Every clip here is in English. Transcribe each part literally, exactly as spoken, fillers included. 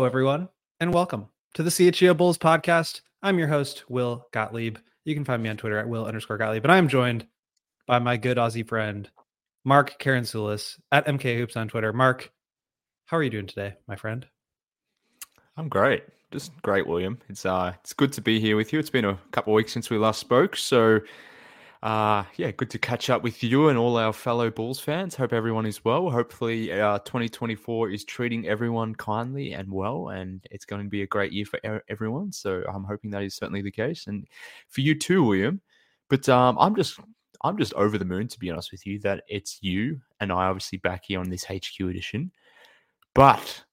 Hello, everyone, and welcome to the C H G O Bulls podcast. I'm your host, Will Gottlieb. You can find me on Twitter at Will underscore Gottlieb, and I am joined by my good Aussie friend, Mark Karansulis at M K Hoops on Twitter. Mark, how are you doing today, my friend? I'm great. Just great, William. It's uh, it's good to be here with you. It's been a couple of weeks since we last spoke, so uh, yeah, good to catch up with you and all our fellow Bulls fans. Hope everyone is well. Hopefully, uh, twenty twenty-four is treating everyone kindly and well, and it's going to be a great year for everyone. So I'm hoping that is certainly the case, and for you too, William. But um, I'm just I'm just over the moon, to be honest with you, that it's you and I obviously back here on this H Q edition, but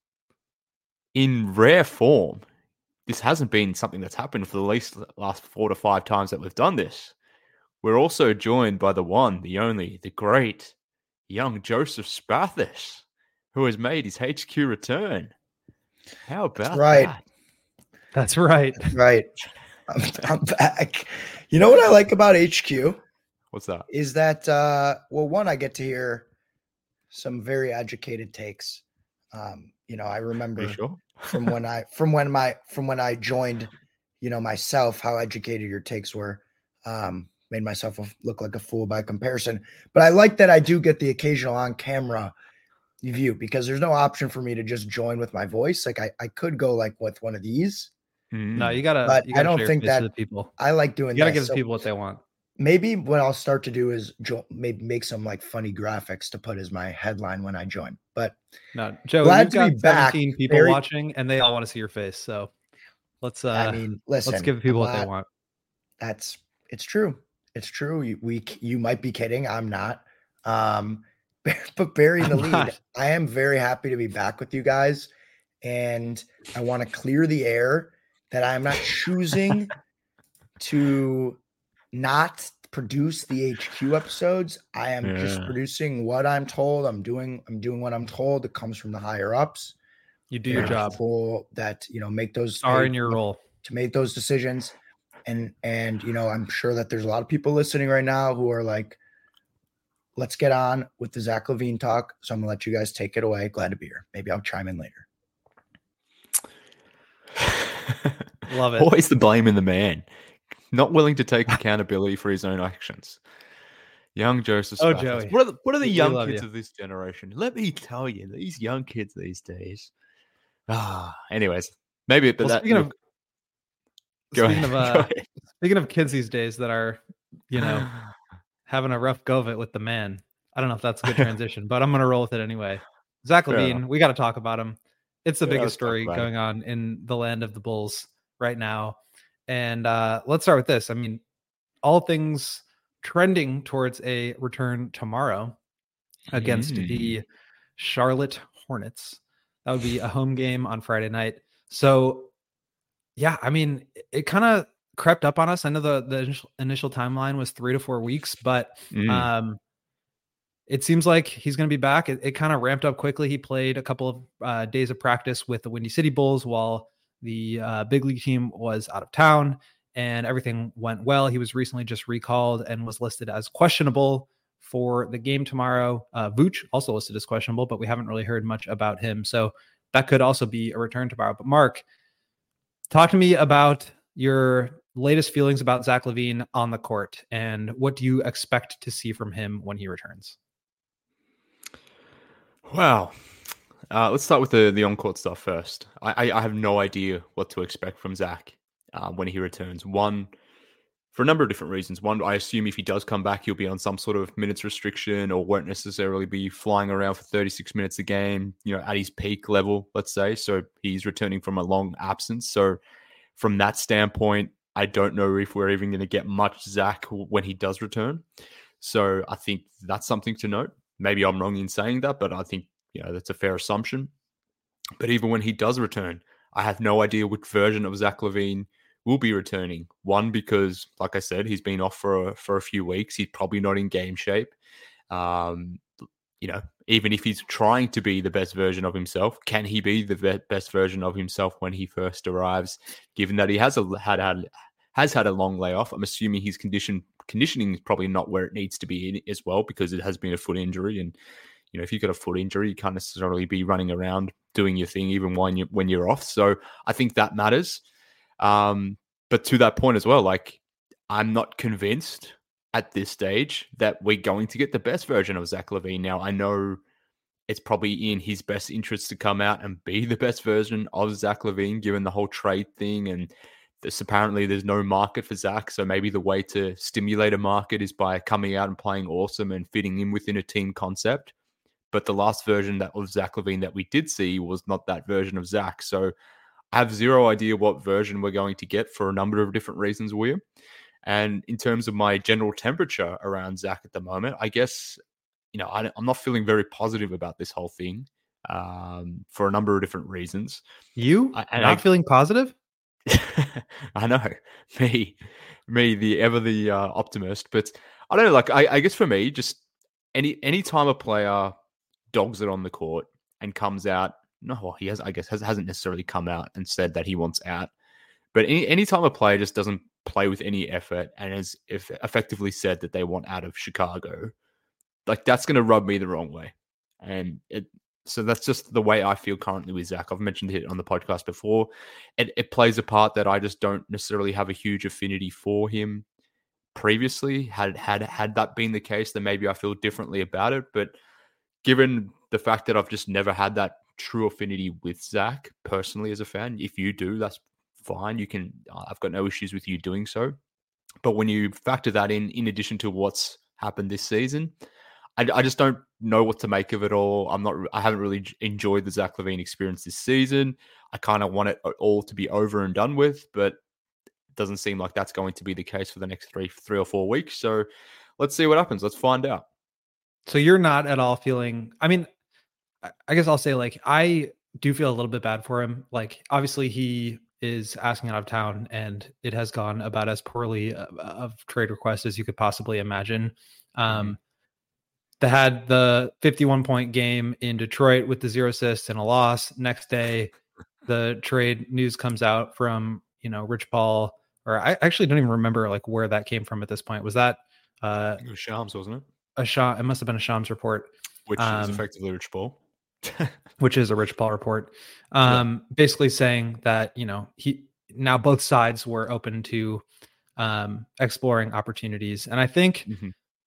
in rare form, this hasn't been something that's happened for the least last four to five times that we've done this. We're also joined by the one, the only, the great young Joseph Spathis, who has made his H Q return. How about That's right. that? That's right. That's right. I'm, I'm back. You know what I like about H Q? What's that? Is that, uh, well, one, I get to hear some very educated takes. Um, you know, I remember sure? from when I from when my from when I joined, you know, myself, how educated your takes were. Um, made myself look like a fool by comparison. But I like that I do get the occasional on-camera view, because there's no option for me to just join with my voice. Like I, I could go like with one of these. Mm. No, you gotta. But you gotta I don't show your think face that to the people. I like doing. You gotta this. give So the people what they want. maybe what I'll start to do is jo- maybe make some like funny graphics to put as my headline when I join. But No, Joe, glad you've to got be back. seventeen people Very- watching, and they all want to see your face. So let's. Uh, I mean, listen. let's give people I'm what they not- want. That's it's true. It's true. You, we you might be kidding. I'm not. Um, but burying the I'm lead, not. I am very happy to be back with you guys, and I want to clear the air that I'm not choosing to not produce the H Q episodes. I am just Yeah. producing what I'm told. I'm doing. I'm doing what I'm told. It comes from the higher ups. You do your They're job. People that you know make those Are they- in your role. to make those decisions. And, and, you know, I'm sure that there's a lot of people listening right now who are like, let's get on with the Zach LaVine talk. So I'm gonna let you guys take it away. Glad to be here. Maybe I'll chime in later. Love it. Always the blame in the man. Not willing to take accountability for his own actions. Young Joseph Oh, Spathis. Joey. What are the, what are the We- we young love kids you. of this generation? Let me tell you, these young kids these days. Ah, anyways, maybe but Well, that speaking of go speaking ahead, of uh, go ahead. speaking of kids these days that are, you know, having a rough go of it with the man. I don't know if that's a good transition, but I'm gonna roll with it anyway. Zach Fair LaVine, we got to talk about him. It's the Yeah, let's biggest talk story about it. going on in the land of the Bulls right now. And uh, let's start with this. I mean, all things trending towards a return tomorrow against Mm. the Charlotte Hornets. That would be a home game on Friday night. So, yeah, I mean, it, it kind of crept up on us. I know the, the initial, initial timeline was three to four weeks, but Mm. um, it seems like he's going to be back. It, it kind of ramped up quickly. He played a couple of uh, days of practice with the Windy City Bulls while the uh, big league team was out of town, and everything went well. He was recently just recalled and was listed as questionable for the game tomorrow. Uh, Vooch also listed as questionable, but we haven't really heard much about him. So that could also be a return tomorrow. But Mark, talk to me about your latest feelings about Zach LaVine on the court, and what do you expect to see from him when he returns? Wow. Uh, let's start with the, the on-court stuff first. I, I, I have no idea what to expect from Zach uh, when he returns. One, for a number of different reasons. One, I assume if he does come back, he'll be on some sort of minutes restriction or won't necessarily be flying around for thirty-six minutes a game, you know, at his peak level, let's say. So he's returning from a long absence. So from that standpoint, I don't know if we're even going to get much Zach when he does return. So I think that's something to note. Maybe I'm wrong in saying that, but I think, you know, that's a fair assumption. But even when he does return, I have no idea which version of Zach LaVine will be returning. One, because, like I said, he's been off for a, for a few weeks. He's probably not in game shape. Um, you know, even if he's trying to be the best version of himself, can he be the be- best version of himself when he first arrives? Given that he has a had had has had a long layoff, I'm assuming his condition conditioning is probably not where it needs to be in as well, because it has been a foot injury, and You know, if you've got a foot injury, you can't necessarily be running around doing your thing even when you when you're off. So I think that matters. Um, but to that point as well, like I'm not convinced at this stage that we're going to get the best version of Zach LaVine. Now I know it's probably in his best interest to come out and be the best version of Zach LaVine, given the whole trade thing. And this, apparently there's no market for Zach. So maybe the way to stimulate a market is by coming out and playing awesome and fitting in within a team concept. But the last version that of Zach LaVine that we did see was not that version of Zach. So I have zero idea what version we're going to get for a number of different reasons, William. And in terms of my general temperature around Zach at the moment, I guess, you know, I, I'm not feeling very positive about this whole thing um, for a number of different reasons. You I, not I, feeling positive? I know, me, me, the ever the uh, optimist. But I don't know. Like, I, I guess for me, just any any time a player dogs it on the court and comes out, no, well, he has, I guess, has, hasn't necessarily come out and said that he wants out. But any any time a player just doesn't play with any effort and has if effectively said that they want out of Chicago, like that's going to rub me the wrong way. And it, so that's just the way I feel currently with Zach. I've mentioned it on the podcast before. It, it plays a part that I just don't necessarily have a huge affinity for him previously. Had had had that been the case, then maybe I feel differently about it. But given the fact that I've just never had that true affinity with Zach personally as a fan, if you do, that's fine. You can, I've got no issues with you doing so. But when you factor that in, in addition to what's happened this season, I, I just don't know what to make of it all. I'm not, I haven't really enjoyed the Zach LaVine experience this season. I kind of want it all to be over and done with, but it doesn't seem like that's going to be the case for the next three, three or four weeks. So let's see what happens. Let's find out. So you're not at all feeling, I mean, I guess I'll say like, I do feel a little bit bad for him. Like, obviously he is asking out of town and it has gone about as poorly of, of trade requests as you could possibly imagine. Um, mm-hmm. They had the fifty-one point game in Detroit with the zero assists and a loss. Next day, the trade news comes out from, you know, Rich Paul, or I actually don't even remember like where that came from at this point. Was that uh, it was Shams, wasn't it? A Shams, it must have been a Shams report, which um, is effectively Rich Paul. which is a Rich Paul report, um, yeah. basically saying that, you know, he now both sides were open to um, exploring opportunities. And I think mm-hmm.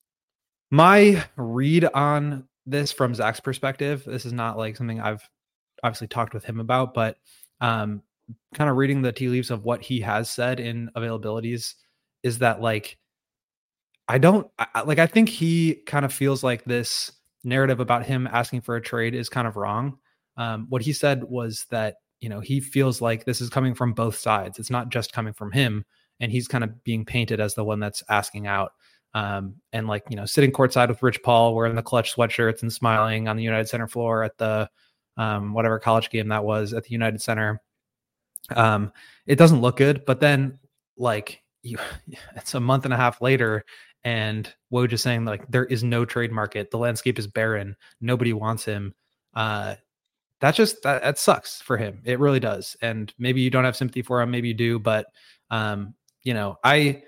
my read on this from Zach's perspective, this is not like something I've obviously talked with him about, but um, kind of reading the tea leaves of what he has said in availabilities is that like, I don't I, like, I think he kind of feels like this narrative about him asking for a trade is kind of wrong. Um, what he said was that, you know, he feels like this is coming from both sides. It's not just coming from him. And he's kind of being painted as the one that's asking out. Um, and like, you know, sitting courtside with Rich Paul, wearing the clutch sweatshirts and smiling on the United Center floor at the, um, whatever college game that was at the United Center. Um, it doesn't look good, but then like you, it's a month and a half later and Woj is saying like, there is no trade market. The landscape is barren. Nobody wants him. Uh, that just, that, that sucks for him. It really does. And maybe you don't have sympathy for him. Maybe you do, but um, you know, I,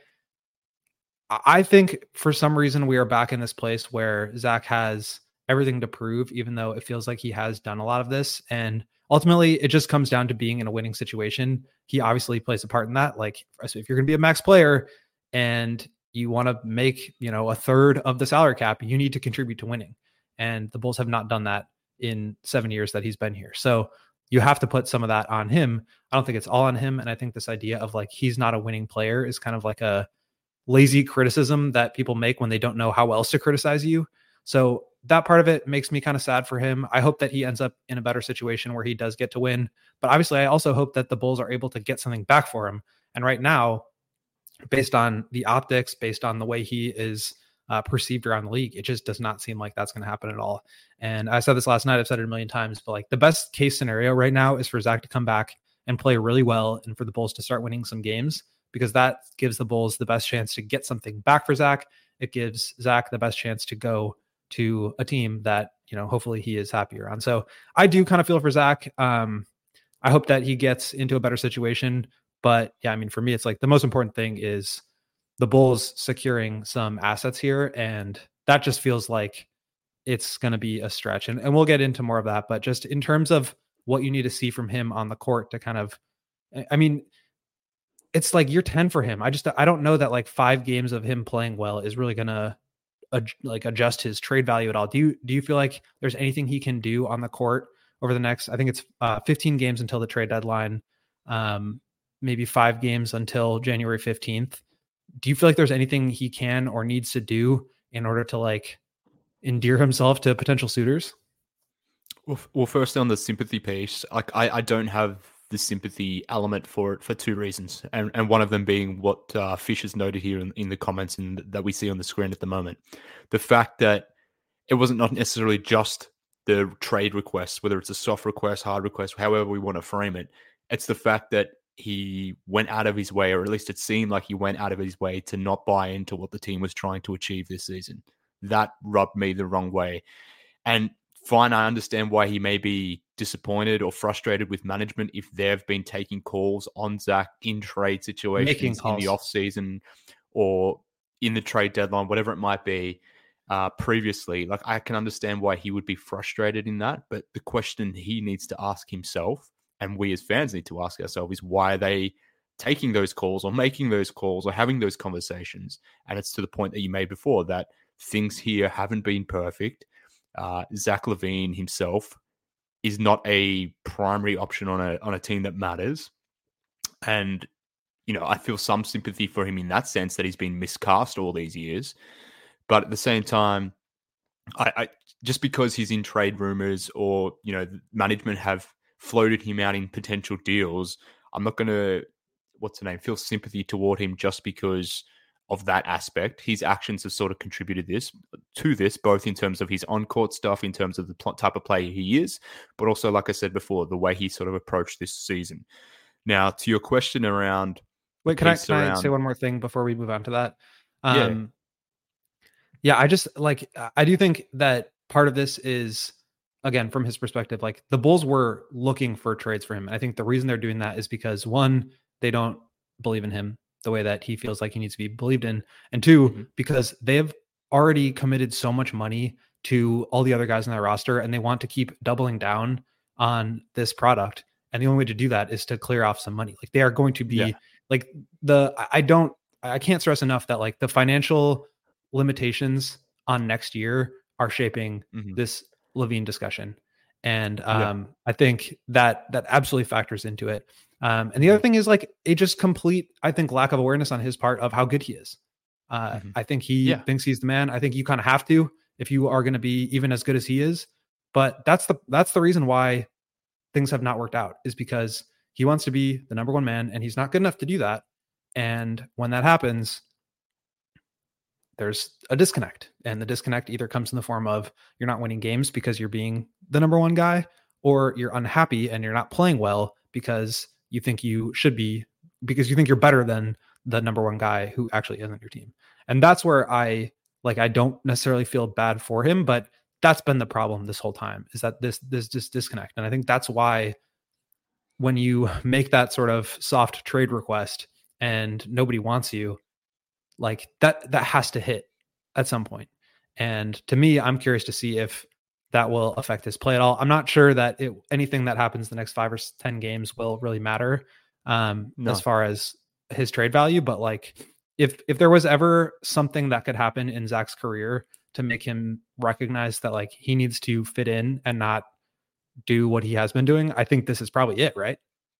I think for some reason we are back in this place where Zach has everything to prove, even though it feels like he has done a lot of this. And ultimately it just comes down to being in a winning situation. He obviously plays a part in that. Like, so if you're going to be a max player and you want to make, you know, a third of the salary cap, you need to contribute to winning. And the Bulls have not done that in seven years that he's been here. So you have to put some of that on him. I don't think it's all on him. And I think this idea of like, he's not a winning player is kind of like a lazy criticism that people make when they don't know how else to criticize you. So that part of it makes me kind of sad for him. I hope that he ends up in a better situation where he does get to win. But obviously I also hope that the Bulls are able to get something back for him. And right now, based on the optics, based on the way he is uh, perceived around the league, it just does not seem like that's going to happen at all. And I said this last night, I've said it a million times, but like the best case scenario right now is for Zach to come back and play really well and for the Bulls to start winning some games, because that gives the Bulls the best chance to get something back for Zach. It gives Zach the best chance to go to a team that, you know, hopefully he is happier on. So I do kind of feel for Zach. Um, I hope that he gets into a better situation. But yeah, I mean, for me, it's like the most important thing is the Bulls securing some assets here. And that just feels like it's going to be a stretch. And, and we'll get into more of that. But just in terms of what you need to see from him on the court to kind of, I mean, it's like year ten for him. I just, I don't know that like five games of him playing well is really going to ad, like adjust his trade value at all. Do you, do you feel like there's anything he can do on the court over the next, I think it's uh, fifteen games until the trade deadline, um, maybe five games until January fifteenth. Do you feel like there's anything he can or needs to do in order to like endear himself to potential suitors? Well, well, firstly on the sympathy piece, like I, I don't have the sympathy element for it for two reasons, and and one of them being what uh, Fish has noted here in, in the comments and that we see on the screen at the moment, the fact that it wasn't not necessarily just the trade request, whether it's a soft request, hard request, however we want to frame it. It's the fact that he went out of his way, or at least it seemed like he went out of his way to not buy into what the team was trying to achieve this season. That rubbed me the wrong way. And fine, I understand why he may be disappointed or frustrated with management if they've been taking calls on Zach in trade situations in the offseason or in the trade deadline, whatever it might be, uh, previously. Like, I can understand why he would be frustrated in that. But the question he needs to ask himself, and we as fans need to ask ourselves, is why are they taking those calls or making those calls or having those conversations? And it's to the point that you made before, that things here haven't been perfect. Uh, Zach LaVine himself is not a primary option on a on a team that matters. And, you know, I feel some sympathy for him in that sense, that he's been miscast all these years. But at the same time, I, I just because he's in trade rumors or, you know, management have floated him out in potential deals, I'm not going to, what's the name, feel sympathy toward him just because of that aspect. His actions have sort of contributed this to this, both in terms of his on-court stuff, in terms of the pl- type of player he is, but also, like I said before, the way he sort of approached this season. Now, to your question around... Wait, can I, can around... I say one more thing before we move on to that? Um, yeah. Yeah, I just, like, I do think that part of this is, again, from his perspective, like, the Bulls were looking for trades for him. I think the reason they're doing that is because, one, they don't believe in him the way that he feels like he needs to be believed in. And two, mm-hmm. because they have already committed so much money to all the other guys on their roster, and they want to keep doubling down on this product. And the only way to do that is to clear off some money. Like, they are going to be yeah. like the, I don't, I can't stress enough that like the financial limitations on next year are shaping mm-hmm. this LaVine discussion. And um, yeah. I think that that absolutely factors into it. Um, and the other thing is like, it just complete, I think, lack of awareness on his part of how good he is. Uh, mm-hmm. I think he yeah. thinks he's the man. I think you kind of have to, if you are going to be even as good as he is. But that's the, that's the reason why things have not worked out, is because he wants to be the number one man and he's not good enough to do that. And when that happens, there's a disconnect, and the disconnect either comes in the form of you're not winning games because you're being the number one guy, or you're unhappy and you're not playing well because you think you should be, because you think you're better than the number one guy who actually isn't your team. And that's where I like, I don't necessarily feel bad for him, but that's been the problem this whole time, is that this, this, this disconnect. And I think that's why when you make that sort of soft trade request and nobody wants you, like that, that has to hit at some point. And to me, I'm curious to see if that will affect his play at all. I'm not sure that it, anything that happens the next five or ten games will really matter um, no. as far as his trade value. But like, if, if there was ever something that could happen in Zach's career to make him recognize that like he needs to fit in and not do what he has been doing, I think this is probably it, right?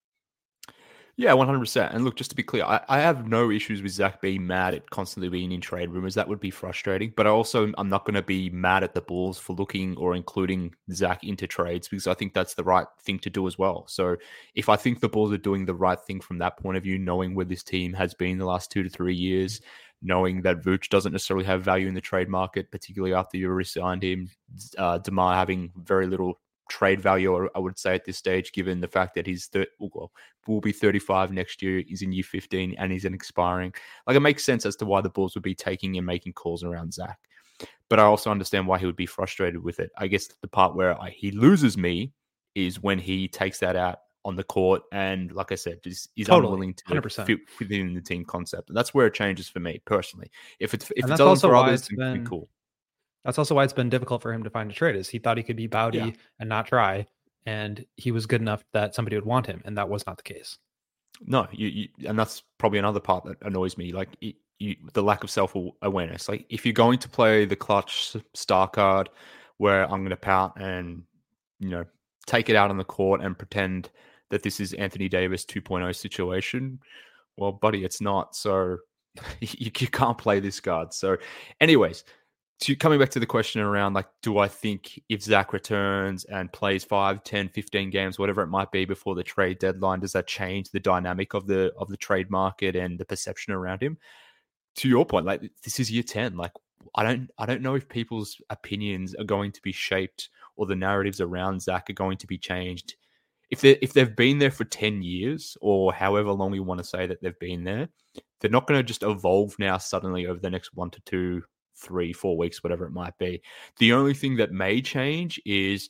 Yeah, one hundred percent. And look, just to be clear, I, I have no issues with Zach being mad at constantly being in trade rumors. That would be frustrating. But I also, I'm not going to be mad at the Bulls for looking or including Zach into trades, because I think that's the right thing to do as well. So if I think the Bulls are doing the right thing from that point of view, knowing where this team has been the last two to three years, knowing that Vooch doesn't necessarily have value in the trade market, particularly after you re-signed him, uh, DeMar having very little trade value, I would say, at this stage, given the fact that he's thir- well, will be thirty-five next year, he's in year fifteen, and he's an expiring. Like, it makes sense as to why the Bulls would be taking and making calls around Zach. But I also understand why he would be frustrated with it. I guess the part where I, he loses me is when he takes that out on the court and, like I said, is, is totally. unwilling to one hundred percent fit within the team concept. And that's where it changes for me personally. If it's if it's done for others, it's been cool. That's also why it's been difficult for him to find a trade. Is he thought he could be Bowdy Yeah. and not try, and he was good enough that somebody would want him, and that was not the case. No, you, you and that's probably another part that annoys me. Like it, you, the lack of self awareness. Like if you're going to play the clutch star card, where I'm going to pout and you know take it out on the court and pretend that this is Anthony Davis two point oh situation. Well, buddy, it's not. So you, you can't play this card. So, anyways. To, coming back to the question around, like, do I think if Zach returns and plays five, ten, fifteen games, whatever it might be before the trade deadline, does that change the dynamic of the of the trade market and the perception around him? To your point, like, this is year ten. Like, I don't I don't know if people's opinions are going to be shaped or the narratives around Zach are going to be changed. If they if they've been there for ten years or however long we want to say that they've been there, they're not going to just evolve now suddenly over the next one to two three, four weeks, whatever it might be. The only thing that may change is,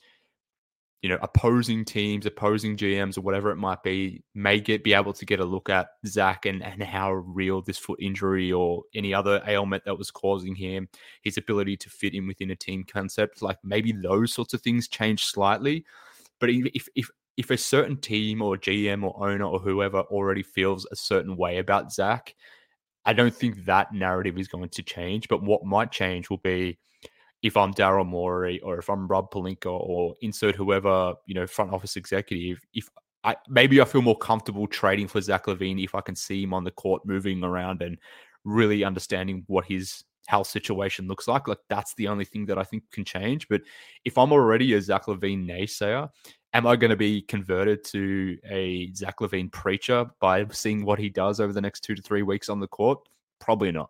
you know, opposing teams, opposing G Ms or whatever it might be, may get be able to get a look at Zach and, and how real this foot injury or any other ailment that was causing him, his ability to fit in within a team concept, like maybe those sorts of things change slightly. But if if if a certain team or G M or owner or whoever already feels a certain way about Zach, I don't think that narrative is going to change, but what might change will be if I'm Daryl Morey or if I'm Rob Pelinka or insert whoever, you know, front office executive, if I maybe I feel more comfortable trading for Zach LaVine if I can see him on the court moving around and really understanding what his health situation looks like. Like that's the only thing that I think can change. But if I'm already a Zach LaVine naysayer, am I going to be converted to a Zach LaVine preacher by seeing what he does over the next two to three weeks on the court? Probably not.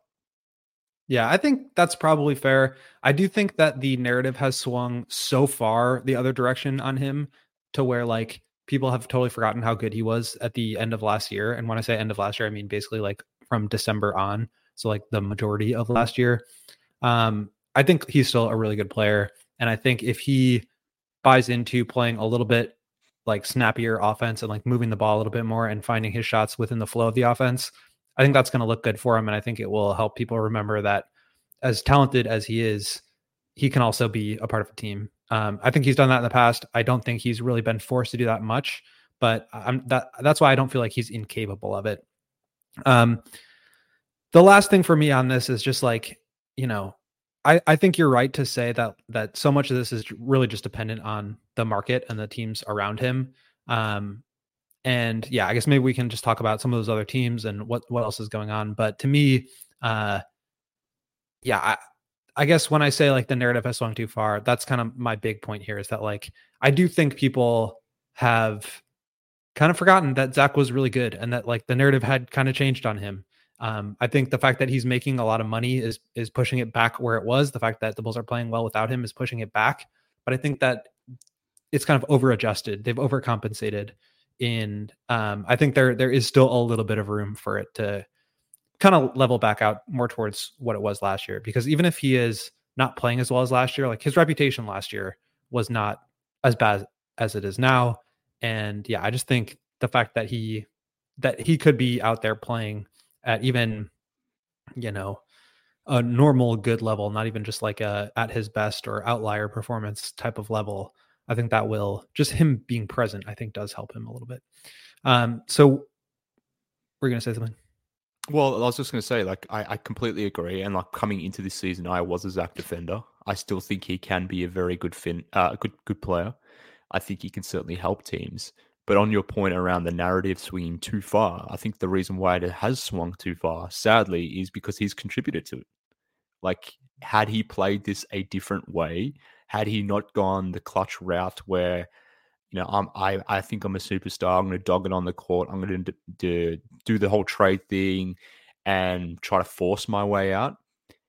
Yeah, I think that's probably fair. I do think that the narrative has swung so far the other direction on him to where like people have totally forgotten how good he was at the end of last year. And when I say end of last year, I mean basically like from December on. So like the majority of last year. Um, I think he's still a really good player. And I think if he buys into playing a little bit like snappier offense and like moving the ball a little bit more and finding his shots within the flow of the offense, I think that's going to look good for him. And I think it will help people remember that as talented as he is, he can also be a part of a team. Um, I think he's done that in the past. I don't think he's really been forced to do that much, but I'm that that's why I don't feel like he's incapable of it. Um, the last thing for me on this is just like, you know, I, I think you're right to say that that so much of this is really just dependent on the market and the teams around him. Um, and yeah, I guess maybe we can just talk about some of those other teams and what, what else is going on. But to me, uh, yeah, I, I guess when I say like the narrative has swung too far, that's kind of my big point here is that like, I do think people have kind of forgotten that Zach was really good and that like the narrative had kind of changed on him. Um, I think the fact that he's making a lot of money is is pushing it back where it was. The fact that the Bulls are playing well without him is pushing it back. But I think that it's kind of over adjusted. They've overcompensated. In um, I think there there is still a little bit of room for it to kind of level back out more towards what it was last year. Because even if he is not playing as well as last year, like his reputation last year was not as bad as it is now. And yeah, I just think the fact that he that he could be out there playing at even, you know, a normal good level, not even just like a at his best or outlier performance type of level. I think that will just him being present, I think does help him a little bit. Um, so we're going to say something. Well, I was just going to say, like, I, I completely agree. And like coming into this season, I was a Zach defender. I still think he can be a very good fin, uh, good, good player. I think he can certainly help teams. But on your point around the narrative swinging too far, I think the reason why it has swung too far, sadly, is because he's contributed to it. Like, had he played this a different way, had he not gone the clutch route where, you know, I'm, I I think I'm a superstar, I'm going to dog it on the court, I'm going to do, do the whole trade thing and try to force my way out.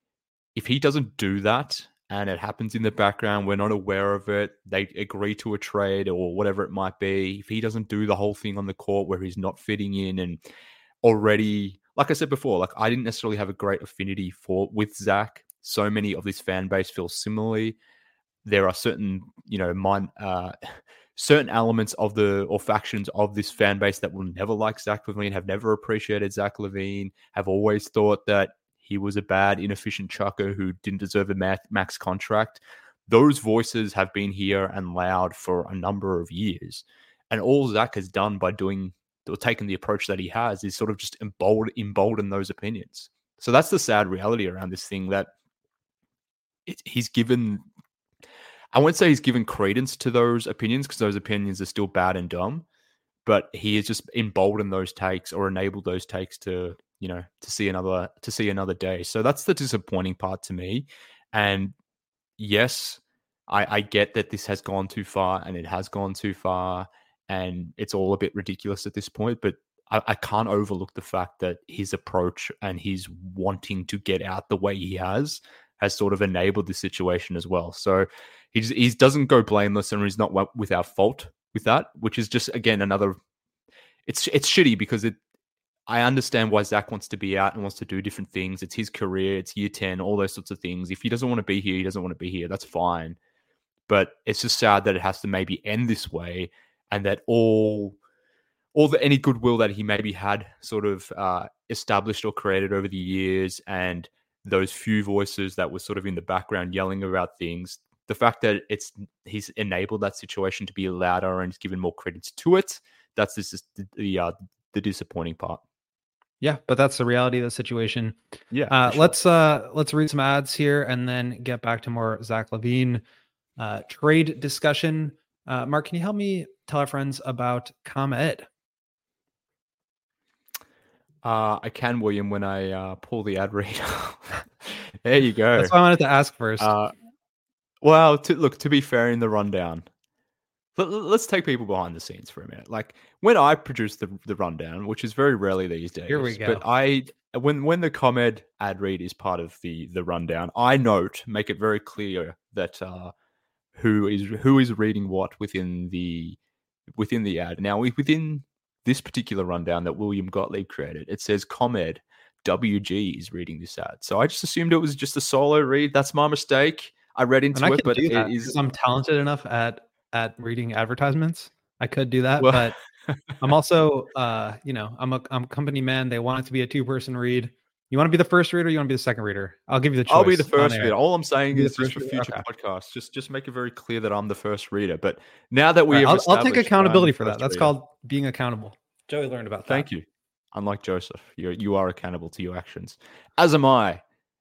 If he doesn't do that, and it happens in the background, we're not aware of it, they agree to a trade or whatever it might be, if he doesn't do the whole thing on the court where he's not fitting in and already, like I said before, like I didn't necessarily have a great affinity for with Zach. So many of this fan base feel similarly. There are certain, you know, mind, uh, certain elements of the, or factions of this fan base that will never like Zach LaVine, have never appreciated Zach LaVine, have always thought that he was a bad, inefficient chucker who didn't deserve a max contract. Those voices have been here and loud for a number of years. And all Zach has done by doing or taking the approach that he has is sort of just embolden, embolden those opinions. So that's the sad reality around this thing, that it, he's given, I won't say he's given credence to those opinions, because those opinions are still bad and dumb, but he has just emboldened those takes or enabled those takes to, you know, to see another, to see another day. So that's the disappointing part to me. And yes, I, I get that this has gone too far, and it has gone too far, and it's all a bit ridiculous at this point, but I, I can't overlook the fact that his approach and his wanting to get out the way he has has sort of enabled this situation as well. So he just, he doesn't go blameless, and he's not without fault with that, which is just, again, another, it's it's shitty, because it, I understand why Zach wants to be out and wants to do different things. It's his career, it's year ten, all those sorts of things. If he doesn't want to be here, he doesn't want to be here. That's fine. But it's just sad that it has to maybe end this way, and that all all the any goodwill that he maybe had sort of uh, established or created over the years, and those few voices that were sort of in the background yelling about things, the fact that it's he's enabled that situation to be louder and he's given more credence to it, that's just the the, uh, the disappointing part. Yeah, but that's the reality of the situation. Yeah. Uh, sure. Let's uh, let's read some ads here and then get back to more Zach LaVine uh, trade discussion. Uh, Mark, can you help me tell our friends about ComEd? Uh, I can, William, when I uh, pull the ad read. There you go. That's why I wanted to ask first. Uh, well, to, look, to be fair, in the rundown, let, let's take people behind the scenes for a minute. Like, when I produce the the rundown, which is very rarely these days, Here we go. but I when when the ComEd ad read is part of the the rundown, I note, make it very clear that uh, who is who is reading what within the within the ad. Now, within this particular rundown that William Gottlieb created, it says ComEd W G is reading this ad. So I just assumed it was just a solo read. That's my mistake. I read into and I it, but do that it is. I'm talented enough at at reading advertisements. I could do that, Well, but I'm also, uh, you know, I'm a I'm a company man. They want it to be a two person read. You want to be the first reader? You want to be the second reader? I'll give you the choice. I'll be the on first air. reader. All I'm saying Be the is just first for reader? future Okay. podcasts, just just make it very clear that I'm the first reader. But now that we All right, have, I'll, I'll take established that I'm accountability the for that. first That's reader- called being accountable. Joey learned about that. Thank you. Unlike Joseph, you you are accountable to your actions, as am I.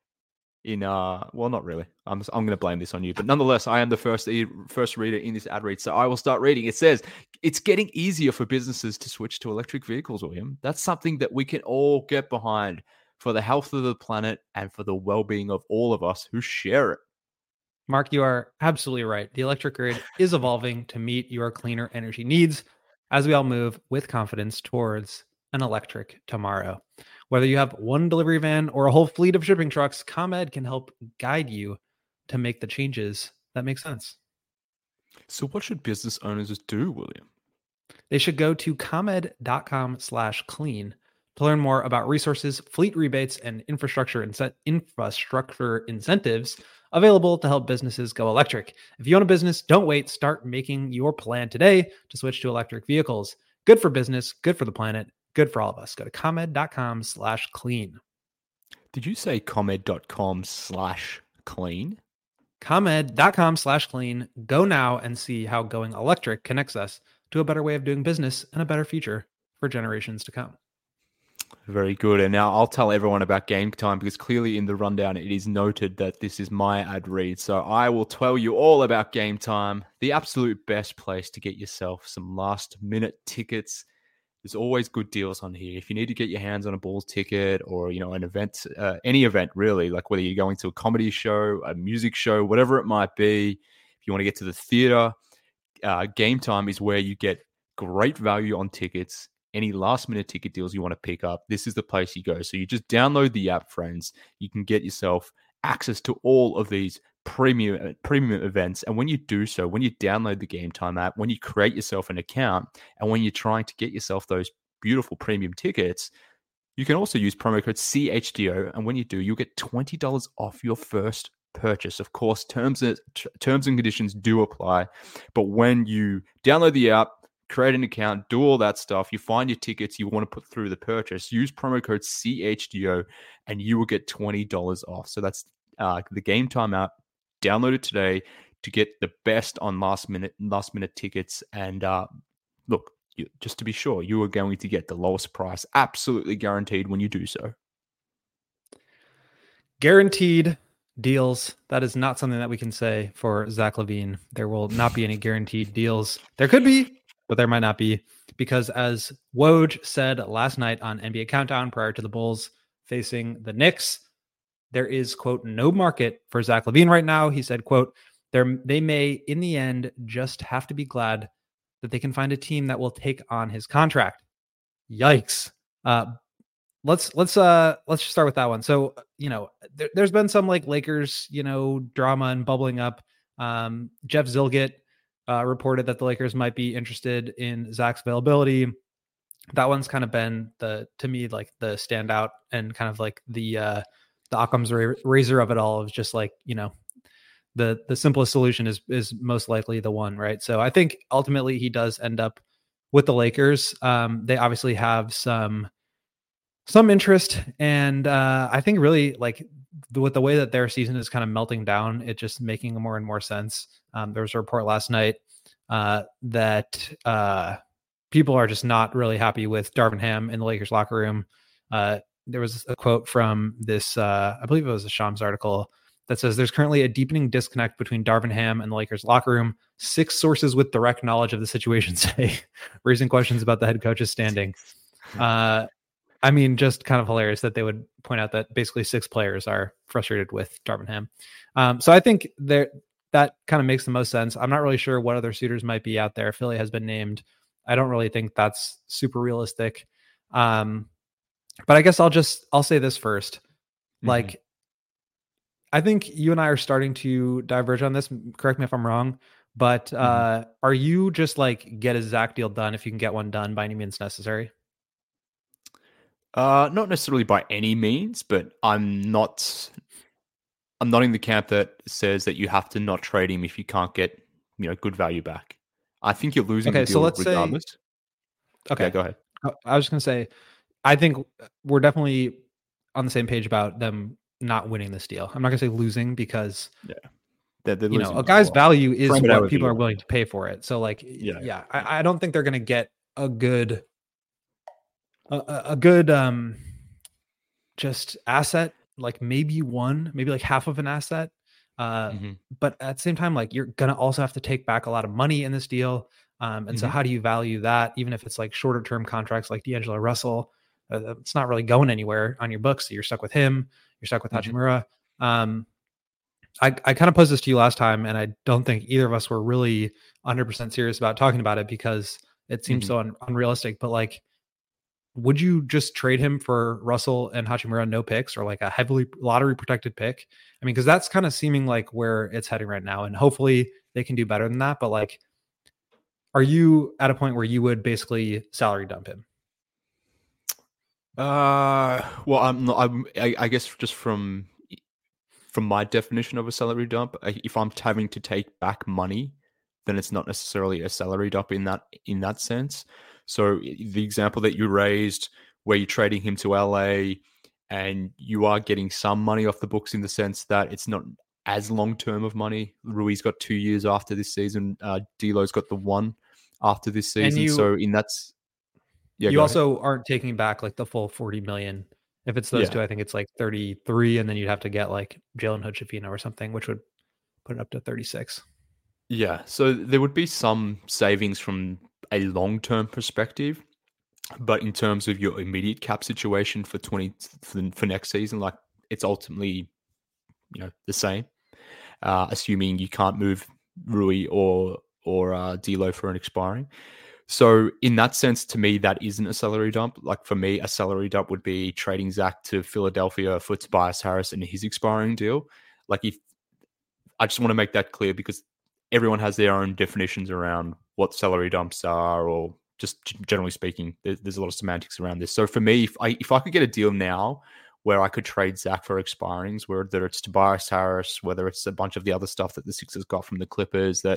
In uh, well, not really. I'm I'm going to blame this on you, but nonetheless, I am the first e- first reader in this ad read, so I will start reading. It says it's getting easier for businesses to switch to electric vehicles, William. That's something that we can all get behind for the health of the planet and for the well-being of all of us who share it. Mark, you are absolutely right. The electric grid is evolving to meet your cleaner energy needs as we all move with confidence towards an electric tomorrow. Whether you have one delivery van or a whole fleet of shipping trucks, ComEd can help guide you to make the changes that make sense. So, what should business owners do, William? They should go to comed.com slash clean to learn more about resources, fleet rebates, and infrastructure incent- infrastructure incentives available to help businesses go electric. If you own a business, don't wait. Start making your plan today to switch to electric vehicles. Good for business, good for the planet, good for all of us. Go to comed.com slash clean. Did you say comed.com slash clean? comed.com slash clean. Go now and see how going electric connects us to a better way of doing business and a better future for generations to come. Very good. And now I'll tell everyone about Game Time, because clearly in the rundown it is noted that this is my ad read. So I will tell you all about Game Time, the absolute best place to get yourself some last minute tickets. There's always good deals on here. If you need to get your hands on a Bulls ticket or, you know, an event, uh, any event really, like whether you're going to a comedy show, a music show, whatever it might be, if you want to get to the theater, uh, Game Time is where you get great value on tickets. Any last minute ticket deals you want to pick up, this is the place you go. So you just download the app, friends. You can get yourself access to all of these premium premium events. And when you do so, when you download the Game Time app, when you create yourself an account, and when you're trying to get yourself those beautiful premium tickets, you can also use promo code C H D O. And when you do, you'll get twenty dollars off your first purchase. Of course, terms and, terms and conditions do apply. But when you download the app, create an account, do all that stuff. You find your tickets you want to put through the purchase. Use promo code C H D O and you will get twenty dollars off. So that's uh, the Game Time app. Download it today to get the best on last minute last minute tickets. And uh, look, you, just to be sure, you are going to get the lowest price, absolutely guaranteed when you do so. Guaranteed deals. That is not something that we can say for Zach LaVine. There will not be any guaranteed deals. There could be, but there might not be, because as Woj said last night on N B A Countdown prior to the Bulls facing the Knicks, there is, quote, no market for Zach LaVine right now. He said, quote, They're, they may in the end just have to be glad that they can find a team that will take on his contract. Yikes. Uh, let's let's uh let's just start with that one. So, you know, there, there's been some like Lakers, you know, drama and bubbling up. Um, Jeff Zilgett uh, reported that the Lakers might be interested in Zach's availability. That one's kind of been the, to me, like the standout and kind of like the uh, the Occam's razor of it all. Is just like, you know, the the simplest solution is is most likely the one, right? So I think ultimately he does end up with the Lakers. Um, they obviously have some some interest, and uh, I think really like the, with the way that their season is kind of melting down, it just making more and more sense. Um, there was a report last night uh, that uh, people are just not really happy with Darvin Ham in the Lakers locker room. Uh, there was a quote from this, uh, I believe it was a Shams article, that says there's currently a deepening disconnect between Darvin Ham and the Lakers locker room. Six sources with direct knowledge of the situation say, raising questions about the head coach's standing. Uh, I mean, just kind of hilarious that they would point out that basically six players are frustrated with Darvin Ham. Um, so I think there that kind of makes the most sense. I'm not really sure what other suitors might be out there. Philly has been named. I don't really think that's super realistic. Um, but I guess I'll just, I'll say this first. Mm-hmm. Like, I think you and I are starting to diverge on this. Correct me if I'm wrong, but uh, mm-hmm. are you just like get a Zach deal done if you can get one done by any means necessary? Uh, not necessarily by any means, but I'm not. I'm not in the camp that says that you have to not trade him if you can't get, you know, good value back. I think you're losing okay, the deal so let's regardless. Say, okay, yeah, go ahead. I was just gonna say, I think we're definitely on the same page about them not winning this deal. I'm not gonna say losing because yeah, they're, they're you know, a guy's well. value is Frame what people are willing to pay for it. So like, yeah, yeah, I, I don't think they're gonna get a good, a, a good, um, just asset. Like maybe one, maybe like half of an asset. Uh, mm-hmm. But at the same time, like you're gonna also have to take back a lot of money in this deal. Um, and mm-hmm. so how do you value that? Even if it's like shorter term contracts like D'Angelo Russell, uh, it's not really going anywhere on your books. So you're stuck with him. You're stuck with mm-hmm. Hachimura. Um, I, I kind of posed this to you last time, and I don't think either of us were really one hundred percent serious about talking about it because it seems mm-hmm. so un- unrealistic. But like, would you just trade him for Russell and Hachimura, no picks, or like a heavily lottery protected pick? I mean, because that's kind of seeming like where it's heading right now, and hopefully they can do better than that. But like, are you at a point where you would basically salary dump him? Uh, well, I'm not, I'm, I, I guess just from, from my definition of a salary dump, if I'm having to take back money, then it's not necessarily a salary dump in that, in that sense. So the example that you raised where you're trading him to L A and you are getting some money off the books in the sense that it's not as long-term of money. Rui's got two years after this season. Uh, D'Lo's got the one after this season. You, so in that's, Yeah, you also ahead. aren't taking back like the full forty million. If it's those yeah. two, I think it's like thirty-three, and then you'd have to get like Jalen Hood-Schifino or something, which would put it up to thirty-six. Yeah, so there would be some savings from a long-term perspective, but in terms of your immediate cap situation for twenty for, for next season, like it's ultimately, you know, the same. Uh, assuming you can't move Rui or or uh, D'Lo for an expiring. So in that sense, to me, that isn't a salary dump. Like for me, a salary dump would be trading Zach to Philadelphia for Tobias Harris and his expiring deal. Like if I just want to make that clear because everyone has their own definitions around what salary dumps are, or just generally speaking, there's, there's a lot of semantics around this. So for me, if I if I could get a deal now where I could trade Zach for expirings, whether it's Tobias Harris, whether it's a bunch of the other stuff that the Sixers got from the Clippers that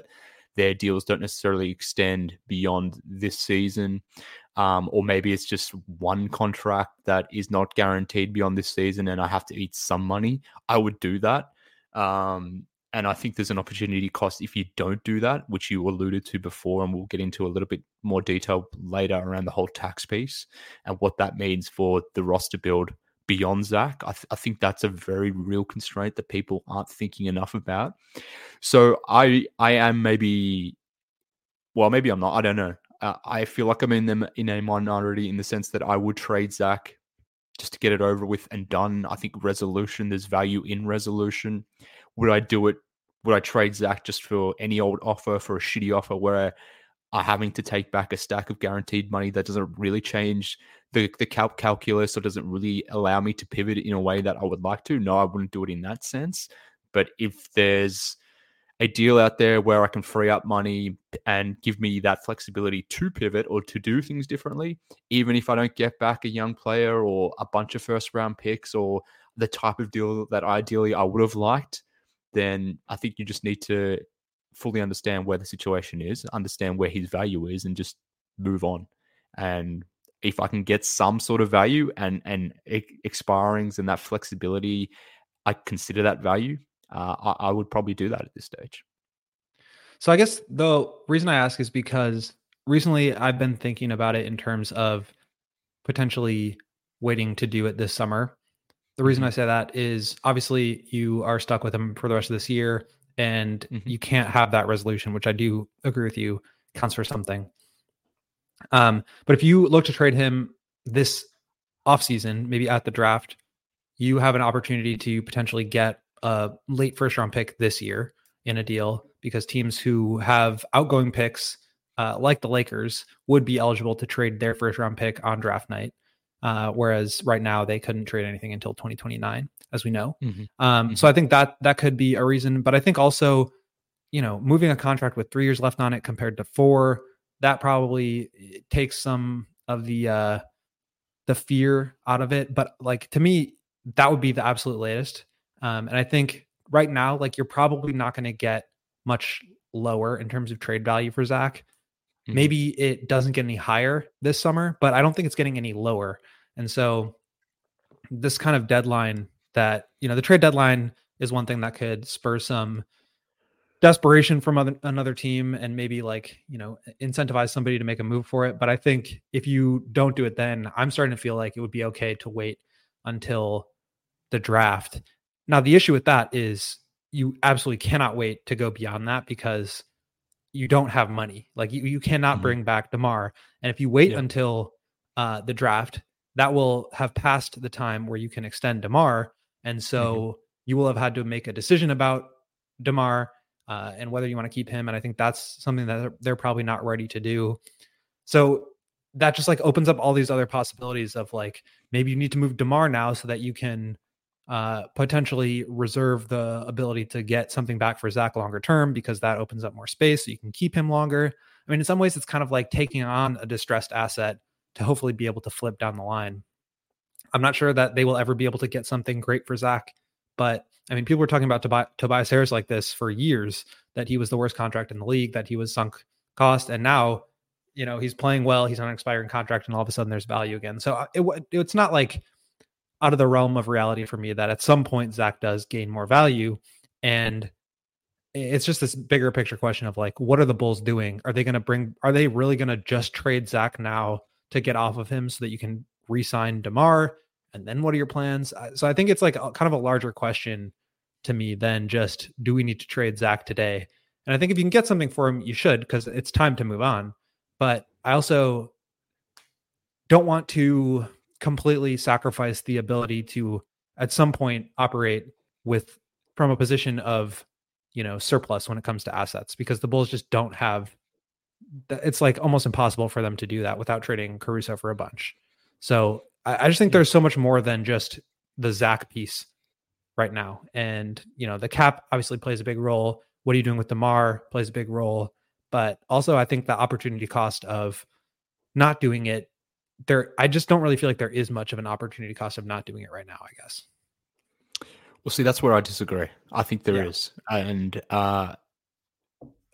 their deals don't necessarily extend beyond this season. Um, or maybe it's just one contract that is not guaranteed beyond this season and I have to eat some money, I would do that. Um, and I think there's an opportunity cost if you don't do that, which you alluded to before, and we'll get into a little bit more detail later around the whole tax piece and what that means for the roster build beyond Zach. I, th- I think that's a very real constraint that people aren't thinking enough about. So I I am maybe, well, maybe I'm not. I don't know. Uh, I feel like I'm in them in a minority in the sense that I would trade Zach just to get it over with and done. I think resolution, there's value in resolution. Would I do it? Would I trade Zach just for any old offer, for a shitty offer where I'm having to take back a stack of guaranteed money that doesn't really change the, the cal- calculus or doesn't really allow me to pivot in a way that I would like to? No, I wouldn't do it in that sense. But if there's a deal out there where I can free up money and give me that flexibility to pivot or to do things differently, even if I don't get back a young player or a bunch of first round picks or the type of deal that ideally I would have liked, then I think you just need to fully understand where the situation is, understand where his value is, and just move on. And if I can get some sort of value and and expirings and that flexibility, I consider that value. Uh, I, I would probably do that at this stage. So I guess the reason I ask is because recently I've been thinking about it in terms of potentially waiting to do it this summer. The reason mm-hmm. I say that is obviously you are stuck with him for the rest of this year and mm-hmm. you can't have that resolution, which I do agree with you counts for something. Um, but if you look to trade him this offseason, maybe at the draft, you have an opportunity to potentially get a late first round pick this year in a deal because teams who have outgoing picks, uh, like the Lakers, would be eligible to trade their first round pick on draft night. Uh, whereas right now they couldn't trade anything until twenty twenty-nine, as we know. Mm-hmm. Um, mm-hmm. So I think that that could be a reason, but I think also, you know, moving a contract with three years left on it compared to four, that probably takes some of the, uh, the fear out of it. But like, to me, that would be the absolute latest. Um, and I think right now, like you're probably not going to get much lower in terms of trade value for Zach. Mm-hmm. Maybe it doesn't get any higher this summer, but I don't think it's getting any lower. And so this kind of deadline that, you know, the trade deadline is one thing that could spur some desperation from other, another team and maybe like, you know, incentivize somebody to make a move for it. But I think if you don't do it, then I'm starting to feel like it would be okay to wait until the draft. Now, the issue with that is you absolutely cannot wait to go beyond that because you don't have money. Like you, you cannot mm-hmm. bring back DeMar. And if you wait yeah. until uh, the draft, that will have passed the time where you can extend DeMar. And so mm-hmm. you will have had to make a decision about DeMar uh, and whether you want to keep him. And I think that's something that they're, they're probably not ready to do. So that just like opens up all these other possibilities of like, maybe you need to move DeMar now so that you can uh, potentially reserve the ability to get something back for Zach longer term, because that opens up more space so you can keep him longer. I mean, in some ways it's kind of like taking on a distressed asset to hopefully be able to flip down the line. I'm not sure that they will ever be able to get something great for Zach, but I mean, people were talking about Tobi- Tobias Harris like this for years, that he was the worst contract in the league, that he was sunk cost. And now, you know, he's playing well, he's on an expiring contract, and all of a sudden there's value again. So it, it's not like out of the realm of reality for me that at some point Zach does gain more value. And it's just this bigger picture question of like, what are the Bulls doing? Are they going to bring, are they really going to just trade Zach now to get off of him so that you can re-sign DeMar? And then what are your plans? So I think it's like a, kind of a larger question to me than just, do we need to trade Zach today? And I think if you can get something for him, you should, because it's time to move on. But I also don't want to completely sacrifice the ability to at some point operate with from a position of, you know, surplus when it comes to assets, because the Bulls just don't have, it's like almost impossible for them to do that without trading Caruso for a bunch. So I, I just think there's so much more than just the Zach piece right now. And, you know, the cap obviously plays a big role. What are you doing with DeMar plays a big role, but also I think the opportunity cost of not doing it there, I just don't really feel like there is much of an opportunity cost of not doing it right now, I guess. Well, see, that's where I disagree. I think there yeah. is. And uh,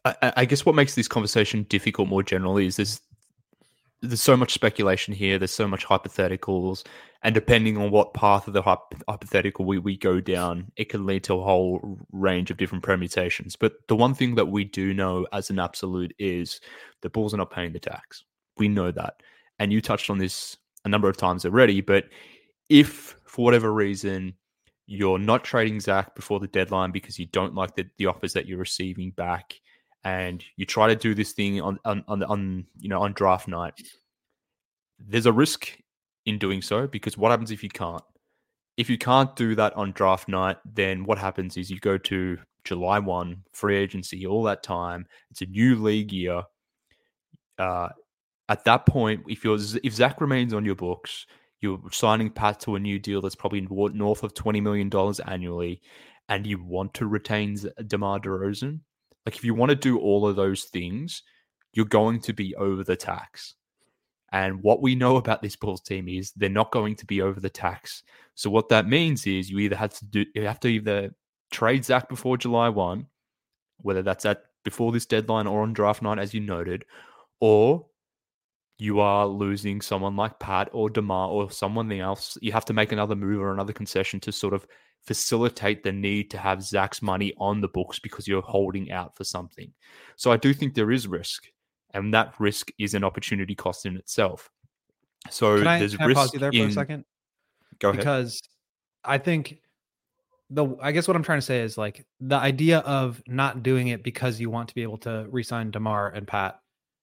I, I guess what makes this conversation difficult more generally is there's there's so much speculation here. There's so much hypotheticals, and depending on what path of the hyp- hypothetical we, we go down, it can lead to a whole range of different permutations. But the one thing that we do know as an absolute is the Bulls are not paying the tax. We know that, and you touched on this a number of times already. But if for whatever reason you're not trading Zach before the deadline because you don't like the, the offers that you're receiving back, and you try to do this thing on, on on on you know on draft night, there's a risk in doing so, because what happens if you can't? If you can't do that on draft night, then what happens is you go to July first, free agency, all that time. It's a new league year. Uh, at that point, if you're if Zach remains on your books, you're signing Pat to a new deal that's probably north of twenty million dollars annually, and you want to retain DeMar DeRozan. Like, if you want to do all of those things, you're going to be over the tax. And what we know about this Bulls team is they're not going to be over the tax. So what that means is you either have to do, you have to either trade Zach before July first, whether that's at before this deadline or on draft night, as you noted, or you are losing someone like Pat or DeMar or someone else. You have to make another move or another concession to sort of facilitate the need to have Zach's money on the books because you're holding out for something. So I do think there is risk, and that risk is an opportunity cost in itself. So can I, there's can risk I pause you there for in... a second? Go ahead. Because I think the I guess what I'm trying to say is, like, the idea of not doing it because you want to be able to re-sign DeMar and Pat,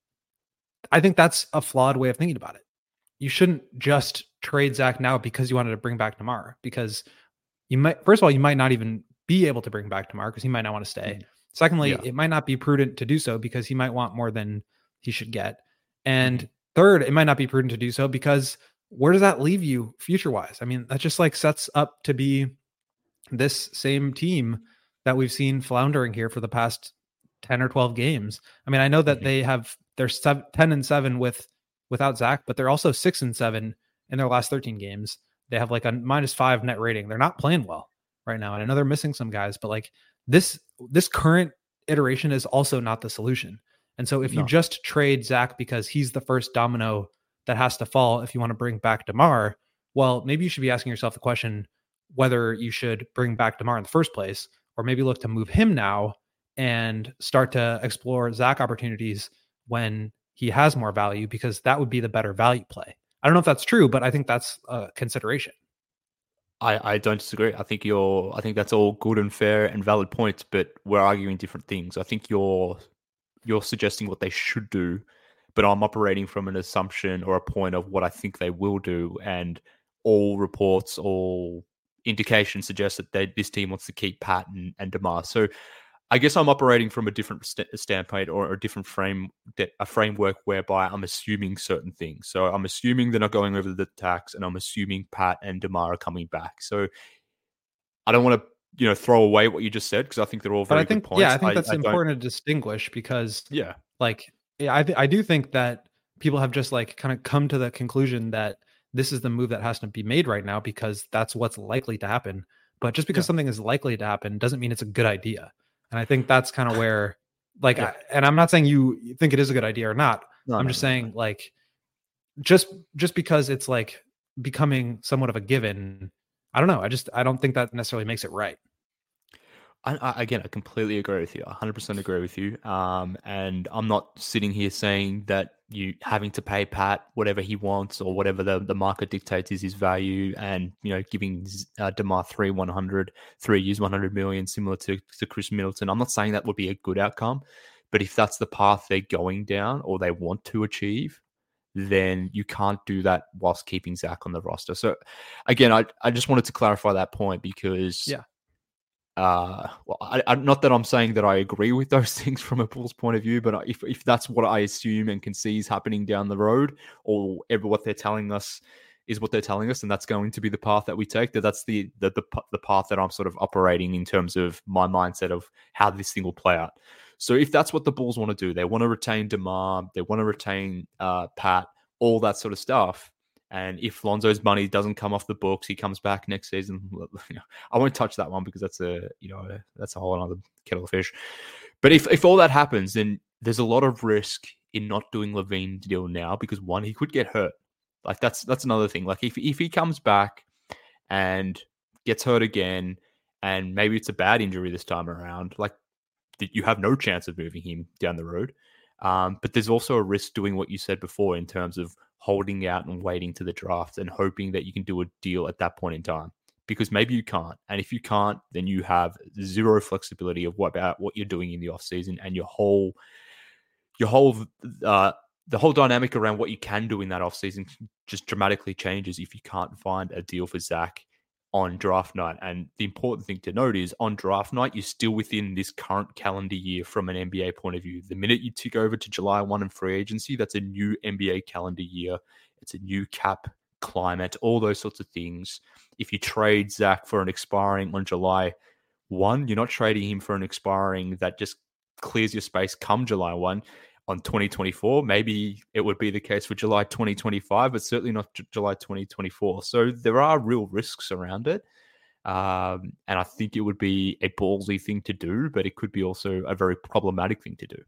I think that's a flawed way of thinking about it. You shouldn't just trade Zach now because you wanted to bring back DeMar, because you might, first of all, you might not even be able to bring back DeMar because he might not want to stay. Mm-hmm. Secondly, yeah. it might not be prudent to do so because he might want more than he should get. And mm-hmm. third, it might not be prudent to do so because where does that leave you future-wise? I mean, that just like sets up to be this same team that we've seen floundering here for the past ten or twelve games. I mean, I know that mm-hmm. they have, they're seven, ten and seven with, without Zach, but they're also six and seven in their last thirteen games. They have like a minus five net rating. They're not playing well right now. And I know they're missing some guys, but like this, this current iteration is also not the solution. And so if no. you just trade Zach because he's the first domino that has to fall if you want to bring back DeMar, well, maybe you should be asking yourself the question whether you should bring back DeMar in the first place, or maybe look to move him now and start to explore Zach opportunities when he has more value, because that would be the better value play. I don't know if that's true, but I think that's a consideration. I, I don't disagree. I think you're, I think that's all good and fair and valid points, but we're arguing different things. I think you're, you're suggesting what they should do, but I'm operating from an assumption or a point of what I think they will do. And all reports, all indications suggest that they, this team wants to keep Pat and, and DeMar. So I guess I'm operating from a different st- standpoint or a different frame, a framework whereby I'm assuming certain things. So I'm assuming they're not going over the tax, and I'm assuming Pat and DeMar are coming back. So I don't want to, you know, throw away what you just said, because I think they're all very but I think, good points. Yeah, I think that's I, I important to distinguish, because yeah, like yeah, I th- I do think that people have just like kind of come to the conclusion that this is the move that has to be made right now because that's what's likely to happen. But just because yeah. something is likely to happen doesn't mean it's a good idea. And I think that's kind of where, like, yeah. I, and I'm not saying you think it is a good idea or not. No, I'm no, just no, saying, no. like, just just because it's like becoming somewhat of a given, I don't know. I just I don't think that necessarily makes it right. I, I, again, I completely agree with you. I one hundred percent agree with you. Um, and I'm not sitting here saying that you having to pay Pat whatever he wants or whatever the, the market dictates is his value, and, you know, giving uh, DeMar three one hundred, three years, one hundred million, similar to, to Chris Middleton. I'm not saying that would be a good outcome, but if that's the path they're going down or they want to achieve, then you can't do that whilst keeping Zach on the roster. So again, I, I just wanted to clarify that point, because yeah. Uh, well, I, I, not that I'm saying that I agree with those things from a Bulls point of view, but if if that's what I assume and can see is happening down the road, or ever what they're telling us is what they're telling us, and that's going to be the path that we take, that that's the the the, the path that I'm sort of operating in terms of my mindset of how this thing will play out. So if that's what the Bulls want to do, they want to retain DeMar, they want to retain uh, Pat, all that sort of stuff. And if Lonzo's money doesn't come off the books, he comes back next season. You know, I won't touch that one because that's a, you know, that's a whole other kettle of fish. But if, if all that happens, then there's a lot of risk in not doing LaVine's deal now because one, he could get hurt. Like that's that's another thing. Like if if he comes back and gets hurt again, and maybe it's a bad injury this time around, like you have no chance of moving him down the road. Um, but there's also a risk doing what you said before in terms of holding out and waiting to the draft and hoping that you can do a deal at that point in time. Because maybe you can't. And if you can't, then you have zero flexibility of what about what you're doing in the offseason, and your whole your whole uh, the whole dynamic around what you can do in that offseason just dramatically changes if you can't find a deal for Zach on draft night. And the important thing to note is on draft night, you're still within this current calendar year from an N B A point of view. The minute you tick over to July first and free agency, that's a new N B A calendar year. It's a new cap climate, all those sorts of things. If you trade Zach for an expiring on July first, you're not trading him for an expiring that just clears your space come July first on twenty twenty-four. Maybe it would be the case for July twenty twenty-five, but certainly not J- July twenty twenty-four. So there are real risks around it. Um, and I think it would be a ballsy thing to do, but it could be also a very problematic thing to do.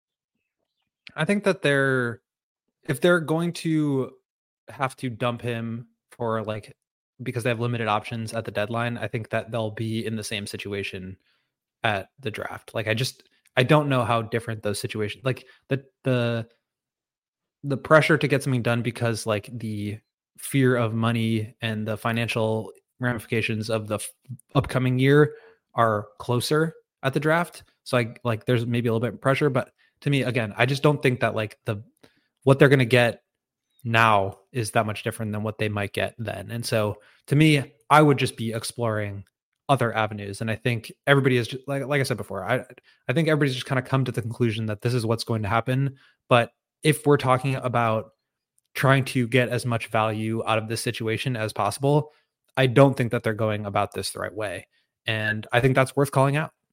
I think that they're, if they're going to have to dump him for like, because they have limited options at the deadline, I think that they'll be in the same situation at the draft. Like I just, I don't know how different those situations, like the, the, the pressure to get something done because like the fear of money and the financial ramifications of the f- upcoming year are closer at the draft. So I like, there's maybe a little bit of pressure, but to me, again, I just don't think that like the, what they're going to get now is that much different than what they might get then. And so to me, I would just be exploring other avenues. And I think everybody is just, like, like I said before, I, I think everybody's just kind of come to the conclusion that this is what's going to happen. But if we're talking about trying to get as much value out of this situation as possible, I don't think that they're going about this the right way. And I think that's worth calling out.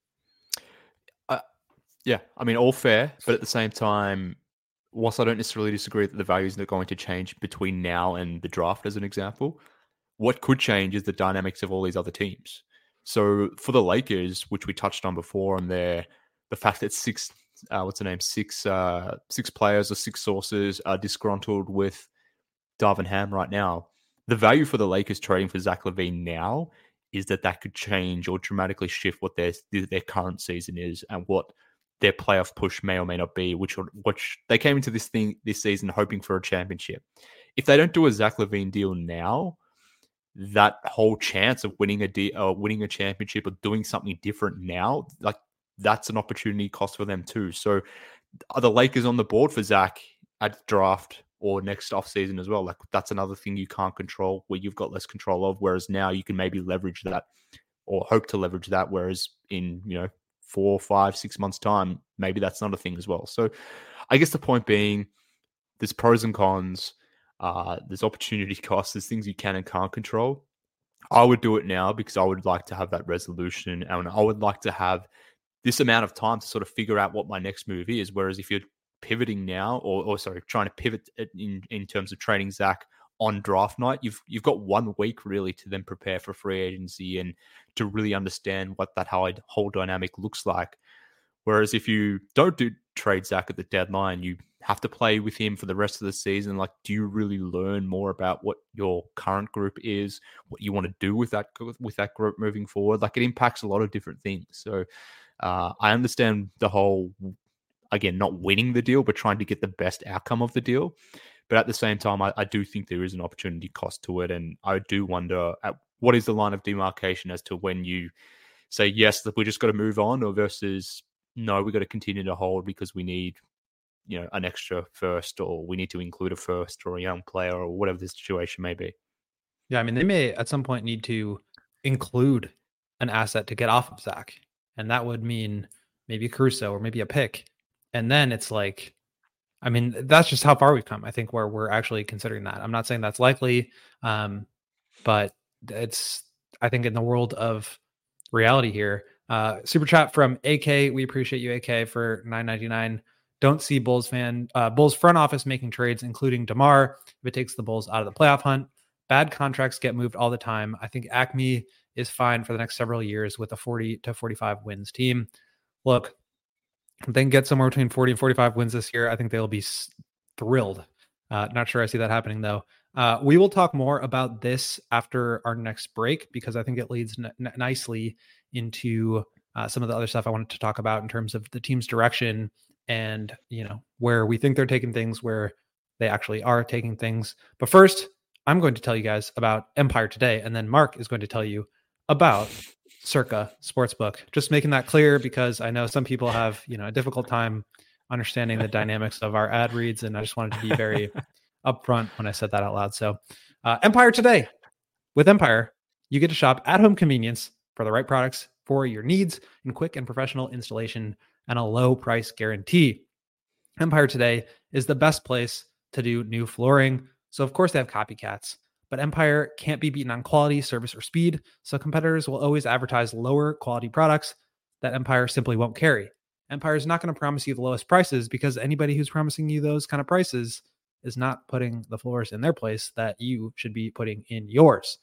Uh, yeah, I mean, all fair, but at the same time, whilst I don't necessarily disagree that the values are going to change between now and the draft, as an example, what could change is the dynamics of all these other teams. So for the Lakers, which we touched on before, and their the fact that six, uh, what's the name, six, uh, six players or six sources are disgruntled with Darvin Ham right now. The value for the Lakers trading for Zach LaVine now is that that could change or dramatically shift what their their current season is and what their playoff push may or may not be, which which they came into this thing this season hoping for a championship. If they don't do a Zach LaVine deal now, that whole chance of winning a de- uh, winning a championship or doing something different now, like that's an opportunity cost for them too. So are the Lakers on the board for Zach at draft or next offseason as well? Like that's another thing you can't control, where you've got less control of, whereas now you can maybe leverage that or hope to leverage that, whereas in, you know, four, five, six months time, maybe that's not a thing as well. So I guess the point being there's pros and cons. Uh, there's opportunity costs. There's things you can and can't control. I would do it now because I would like to have that resolution, and I would like to have this amount of time to sort of figure out what my next move is. Whereas if you're pivoting now, or, or sorry, trying to pivot in, in terms of trading Zach on draft night, you've you've got one week really to then prepare for free agency and to really understand what that whole dynamic looks like. Whereas if you don't do trade Zach at the deadline, you have to play with him for the rest of the season. Like, do you really learn more about what your current group is, what you want to do with that with that group moving forward? Like, it impacts a lot of different things. So uh, I understand the whole, again, not winning the deal, but trying to get the best outcome of the deal. But at the same time, I, I do think there is an opportunity cost to it. And I do wonder at what is the line of demarcation as to when you say, yes, we just got to move on, or versus, no, we got to continue to hold because we need, you know, an extra first, or we need to include a first or a young player or whatever the situation may be. Yeah, I mean, they may at some point need to include an asset to get off of Zach. And that would mean maybe Caruso or maybe a pick. And then it's like, I mean, that's just how far we've come, I think, where we're actually considering that. I'm not saying that's likely, um, but it's, I think, in the world of reality here. Uh, super chat from A K. We appreciate you, A K, for nine ninety-nine. Don't see Bulls fan, uh, Bulls front office making trades, including DeMar, if it takes the Bulls out of the playoff hunt. Bad contracts get moved all the time. I think Acme is fine for the next several years with a forty to forty-five wins team. Look, If they can get somewhere between forty and forty-five wins this year, I think they'll be thrilled. Uh, not sure I see that happening, though. Uh, we will talk more about this after our next break, because I think it leads n- n- nicely into uh, some of the other stuff I wanted to talk about in terms of the team's direction and, you know, where we think they're taking things, where they actually are taking things. But first, I'm going to tell you guys about Empire Today, and then Mark is going to tell you about Circa Sportsbook. Just making that clear, because I know some people have, you know, a difficult time understanding the dynamics of our ad reads, and I just wanted to be very upfront when I said that out loud. So uh, Empire Today. With Empire, you get to shop at home convenience for the right products for your needs, and quick and professional installation and a low price guarantee. Empire Today is the best place to do new flooring. So of course they have copycats, but Empire can't be beaten on quality, service, or speed. So competitors will always advertise lower quality products that Empire simply won't carry. Empire is not going to promise you the lowest prices, because anybody who's promising you those kind of prices is not putting the floors in their place that you should be putting in yours.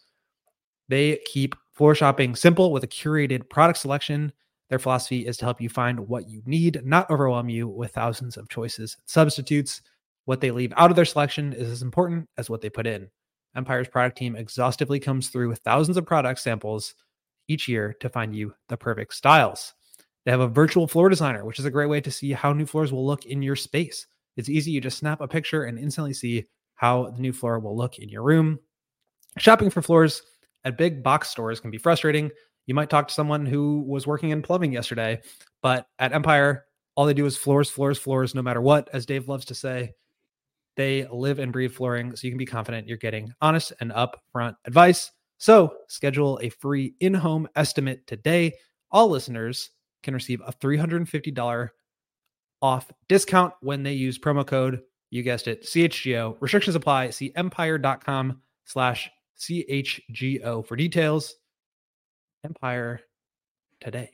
They keep floor shopping simple with a curated product selection. Their philosophy is to help you find what you need, not overwhelm you with thousands of choices and substitutes. What they leave out of their selection is as important as what they put in. Empire's product team exhaustively comes through with thousands of product samples each year to find you the perfect styles. They have a virtual floor designer, which is a great way to see how new floors will look in your space. It's easy. You just snap a picture and instantly see how the new floor will look in your room. Shopping for floors at big box stores can be frustrating. You might talk to someone who was working in plumbing yesterday, but at Empire, all they do is floors, floors, floors, no matter what, as Dave loves to say. They live and breathe flooring, so you can be confident you're getting honest and upfront advice. So schedule a free in-home estimate today. All listeners can receive a three hundred fifty dollars off discount when they use promo code, you guessed it, C H G O. Restrictions apply. See empire.com slash CHGO for details. Empire Today.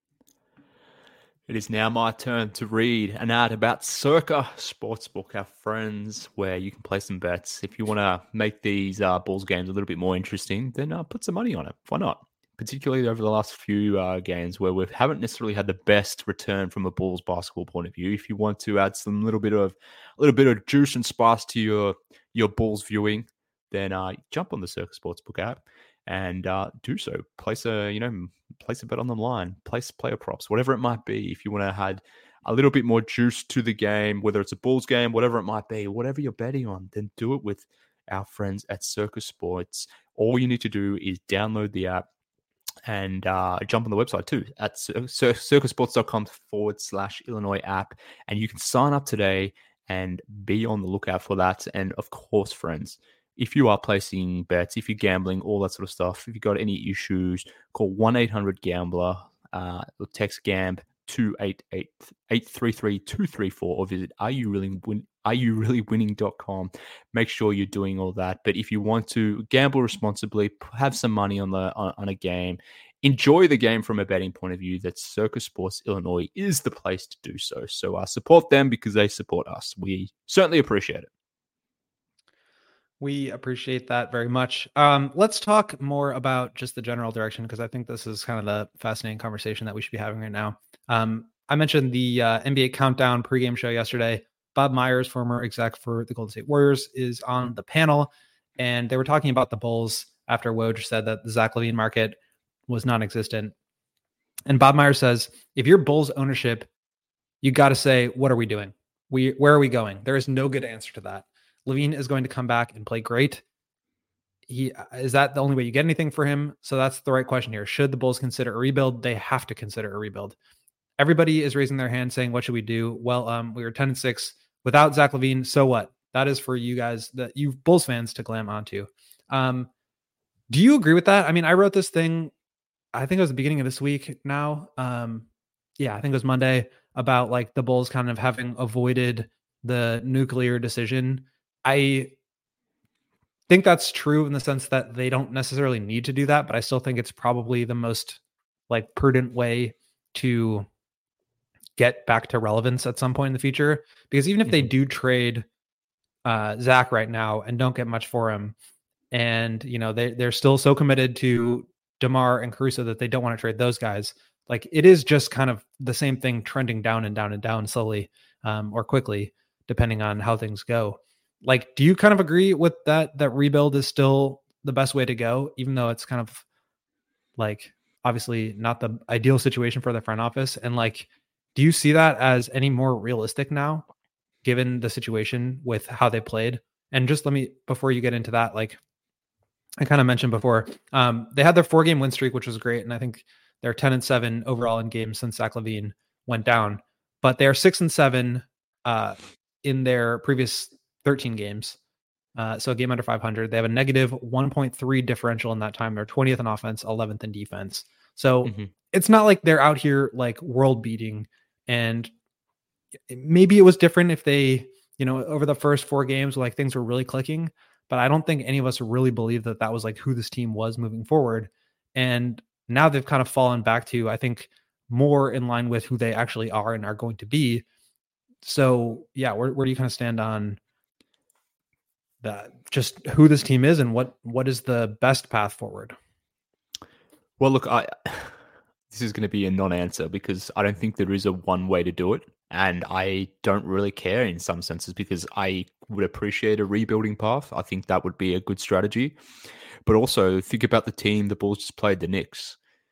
It is now my turn to read an ad about Circa Sportsbook, our friends, where you can play some bets. If you want to make these uh, Bulls games a little bit more interesting, then uh, put some money on it. Why not? Particularly over the last few uh, games where we haven't necessarily had the best return from a Bulls basketball point of view. If you want to add some little bit of a little bit of juice and spice to your your Bulls viewing, then uh, jump on the Circa Sportsbook app and uh, do so. Place a you know place a bet on the line, place player props, whatever it might be. If you want to add a little bit more juice to the game, whether it's a Bulls game, whatever it might be, whatever you're betting on, then do it with our friends at Circa Sports. All you need to do is download the app and uh, jump on the website too at circasports.com forward slash Illinois app. And you can sign up today and be on the lookout for that. And of course, friends, if you are placing bets, if you're gambling, all that sort of stuff, if you've got any issues, call one eight hundred gambler uh, or text GAMB to eight eight eight three three two three four or visit are you really win are you really winning dot com. Make sure you're doing all that. But if you want to gamble responsibly, have some money on the on, on a game, enjoy the game from a betting point of view, that Circa Sports Illinois is the place to do so. So uh, support them because they support us. We certainly appreciate it. We appreciate that very much. Um, let's talk more about just the general direction, because I think this is kind of the fascinating conversation that we should be having right now. Um, I mentioned the uh, N B A Countdown pregame show yesterday. Bob Myers, former exec for the Golden State Warriors, is on the panel, and they were talking about the Bulls after Woj said that the Zach LaVine market was non-existent. And Bob Myers says, if you're Bulls ownership, you got to say, what are we doing? We where are we going? There is no good answer to that. LaVine is going to come back and play great. He is that the only way you get anything for him? So that's the right question here. Should the Bulls consider a rebuild? They have to consider a rebuild. Everybody is raising their hand saying, what should we do? Well, um, we were ten and six without Zach LaVine. So what? That is for you guys, that you Bulls fans, to glam onto. Um, do you agree with that? I mean, I wrote this thing, I think it was the beginning of this week now. Um, yeah, I think it was Monday, about like the Bulls kind of having avoided the nuclear decision. I think that's true in the sense that they don't necessarily need to do that, but I still think it's probably the most like prudent way to get back to relevance at some point in the future. Because even if they do trade uh, Zach right now and don't get much for him, and you know they they're still so committed to DeMar and Caruso that they don't want to trade those guys, like it is just kind of the same thing trending down and down and down slowly um, or quickly, depending on how things go. Like, do you kind of agree with that, that rebuild is still the best way to go, even though it's kind of like obviously not the ideal situation for the front office? And like, do you see that as any more realistic now, given the situation with how they played? And just let me, before you get into that, like I kind of mentioned before, um, they had their four game win streak, which was great. And I think they're ten and seven overall in games since Zach LaVine went down, but they're six and seven uh, in their previous thirteen games. Uh, so a game under five hundred. They have a negative one point three differential in that time. They're twentieth in offense, eleventh in defense. So mm-hmm. it's not like they're out here like world beating. And maybe it was different if they, you know, over the first four games, like things were really clicking, but I don't think any of us really believe that that was like who this team was moving forward. And now they've kind of fallen back to, I think, more in line with who they actually are and are going to be. So yeah, where, where do you kind of stand on that, just who this team is and what, what is the best path forward? Well, look, I, this is going to be a non-answer because I don't think there is a one way to do it. And I don't really care in some senses because I would appreciate a rebuilding path. I think that would be a good strategy. But also think about the team the Bulls just played, the Knicks.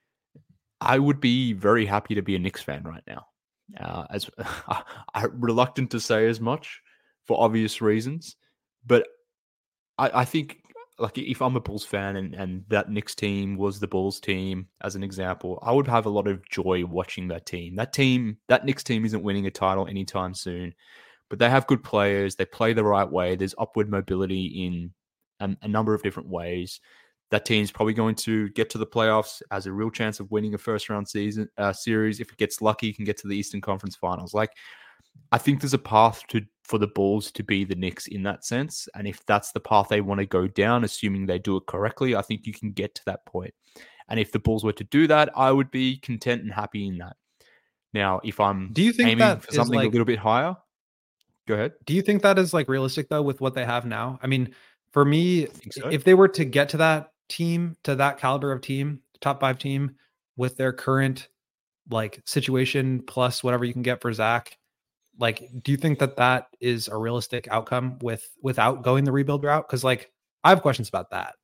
I would be very happy to be a Knicks fan right now. Uh, as I'm reluctant to say as much for obvious reasons, but I, I think like if I'm a Bulls fan and, and that Knicks team was the Bulls team, as an example, I would have a lot of joy watching that team. That team, that Knicks team isn't winning a title anytime soon, but they have good players. They play the right way. There's upward mobility in a, a number of different ways. That team's probably going to get to the playoffs, has a real chance of winning a first round season uh, series. If it gets lucky, can get to the Eastern Conference Finals. Like, I think there's a path to for the Bulls to be the Knicks in that sense. And if that's the path they want to go down, assuming they do it correctly, I think you can get to that point. And if the Bulls were to do that, I would be content and happy in that. Now, if I'm do you think aiming that for something like, a little bit higher, go ahead. Do you think that is like realistic though with what they have now? I mean, for me, so. if they were to get to that team, to that caliber of team, top five team with their current like situation plus whatever you can get for Zach, like, do you think that that is a realistic outcome with without going the rebuild route? Because like I have questions about that.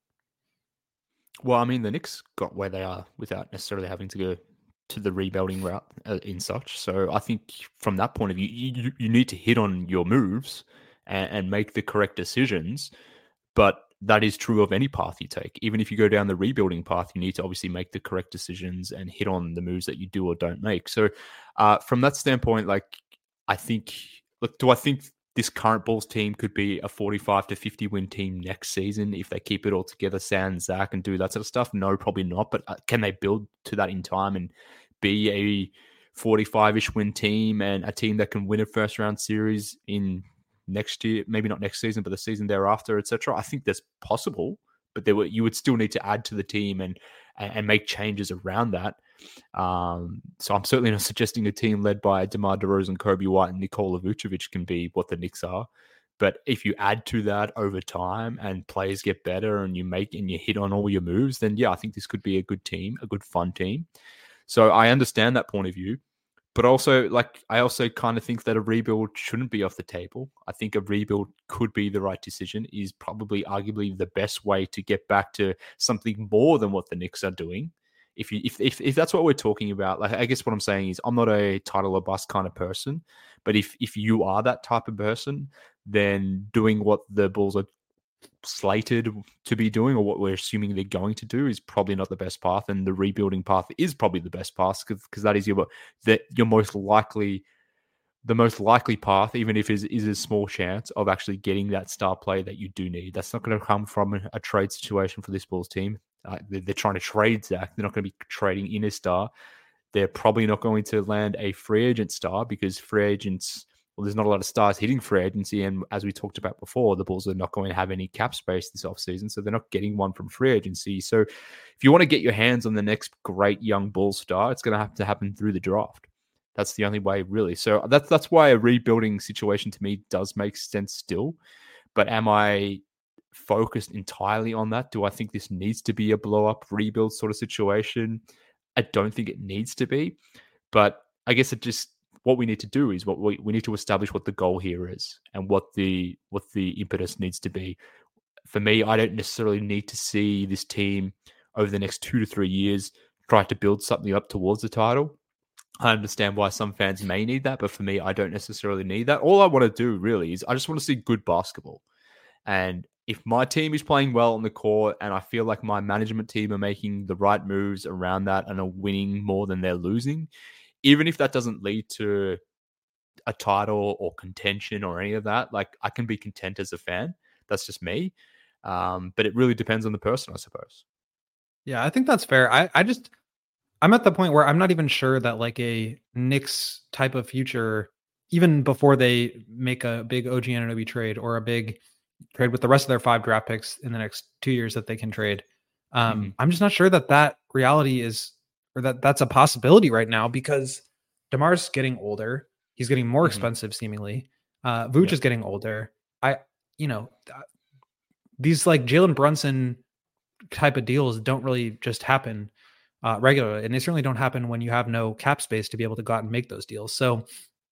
Well, I mean, the Knicks got where they are without necessarily having to go to the rebuilding route uh, in such. So I think from that point of view, you, you need to hit on your moves and, and make the correct decisions. But that is true of any path you take. Even if you go down the rebuilding path, you need to obviously make the correct decisions and hit on the moves that you do or don't make. So uh, from that standpoint, like, I think, look, do I think this current Bulls team could be a forty-five to fifty win team next season if they keep it all together, sans Zach, and do that sort of stuff? No, probably not. But uh, can they build to that in time and be a forty-five-ish win team and a team that can win a first round series in next year, maybe not next season, but the season thereafter, et cetera? I think that's possible, but there were, you would still need to add to the team and and make changes around that. Um, so I'm certainly not suggesting a team led by DeMar DeRozan, Kobe White, and Nikola Vucevic can be what the Knicks are. But if you add to that over time and players get better and you make and you hit on all your moves, then yeah, I think this could be a good team, a good fun team. So I understand that point of view. But also, like, I also kind of think that a rebuild shouldn't be off the table. I think a rebuild could be the right decision, is probably arguably the best way to get back to something more than what the Knicks are doing. If you if if, if that's what we're talking about, like, I guess what I'm saying is I'm not a title or bust kind of person, but if if you are that type of person, then doing what the Bulls are slated to be doing, or what we're assuming they're going to do, is probably not the best path, and the rebuilding path is probably the best path because that is your that your most likely the most likely path, even if it is, is a small chance of actually getting that star player that you do need. That's not going to come from a, a trade situation for this Bulls team. Uh, they're, they're trying to trade Zach. They're not going to be trading in a star. They're probably not going to land a free agent star because free agents, well, there's not a lot of stars hitting free agency. And as we talked about before, the Bulls are not going to have any cap space this offseason. So they're not getting one from free agency. So if you want to get your hands on the next great young Bulls star, it's going to have to happen through the draft. That's the only way, really. So that's, that's why a rebuilding situation to me does make sense still. But am I focused entirely on that? Do I think this needs to be a blow-up rebuild sort of situation? I don't think it needs to be, but I guess it just what we need to do is what we, we need to establish what the goal here is and what the what the impetus needs to be. For me, I don't necessarily need to see this team over the next two to three years try to build something up towards the title. I understand why some fans may need that, but for me, I don't necessarily need that. All I want to do really is I just want to see good basketball. And if my team is playing well on the court and I feel like my management team are making the right moves around that and are winning more than they're losing, even if that doesn't lead to a title or contention or any of that, like I can be content as a fan. That's just me. Um, but it really depends on the person, I suppose. Yeah, I think that's fair. I, I just, I'm at the point where I'm not even sure that like a Knicks type of future, even before they make a big O G Anunoby trade or a big trade with the rest of their five draft picks in the next two years that they can trade. Um, mm-hmm. I'm just not sure that that reality is, or that that's a possibility right now, because DeMar's getting older. He's getting more mm-hmm. expensive, seemingly. Uh, Vooch yeah. is getting older. I, you know, these like Jalen Brunson type of deals don't really just happen uh, regularly. And they certainly don't happen when you have no cap space to be able to go out and make those deals. So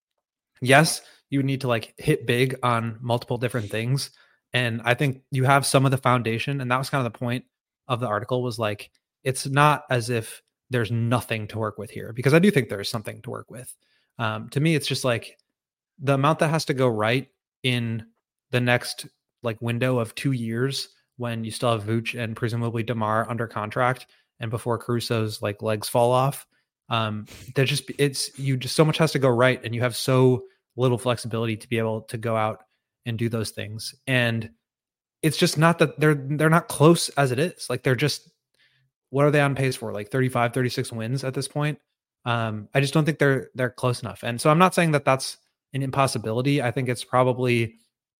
yes, you need to like hit big on multiple different things. And I think you have some of the foundation. And that was kind of the point of the article, was like, it's not as if there's nothing to work with here, because I do think there's something to work with. Um, to me, it's just like the amount that has to go right in the next like window of two years when you still have Vooch and presumably DeMar under contract and before Caruso's like legs fall off. Um, there's just, it's, you just, so much has to go right. And you have so little flexibility to be able to go out and do those things. And it's just not that they're, they're not close as it is. Like they're just, what are they on pace for? Like thirty-five, thirty-six wins at this point. Um, I just don't think they're, they're close enough. And so I'm not saying that that's an impossibility. I think it's probably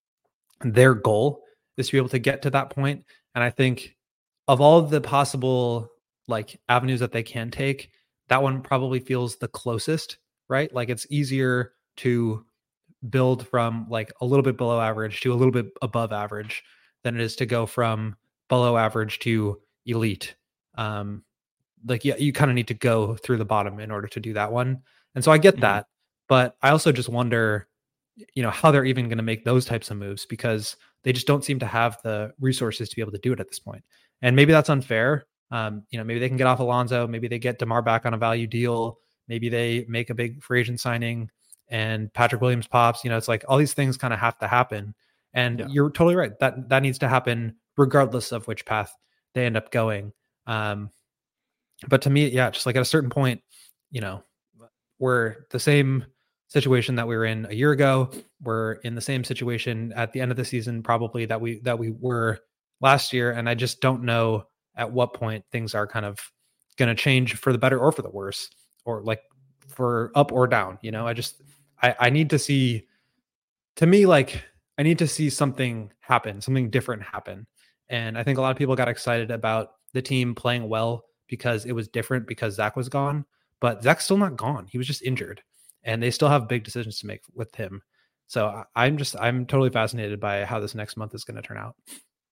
their goal is to be able to get to that point. And I think of all of the possible like avenues that they can take, that one probably feels the closest, right? Like it's easier to build from like a little bit below average to a little bit above average than it is to go from below average to elite. Um, like, yeah, you kind of need to go through the bottom in order to do that one. And so I get mm-hmm. that, but I also just wonder, you know, how they're even going to make those types of moves, because they just don't seem to have the resources to be able to do it at this point. And maybe that's unfair. Um, you know, maybe they can get off Alonzo. Maybe they get DeMar back on a value deal. Maybe they make a big free agent signing and Patrick Williams pops. You know, it's like all these things kind of have to happen. And yeah. you're totally right. That that needs to happen regardless of which path they end up going. Um, but to me, yeah, just like at a certain point, you know, we're the same situation that we were in a year ago. We're in the same situation at the end of the season, probably that we that we were last year. And I just don't know at what point things are kind of going to change for the better or for the worse, or like for up or down. You know, I just I, I need to see, to me, like I need to see something happen, something different happen. And I think a lot of people got excited about the team playing well because it was different because Zach was gone, but Zach's still not gone. He was just injured. And they still have big decisions to make with him. So I'm just, I'm totally fascinated by how this next month is going to turn out.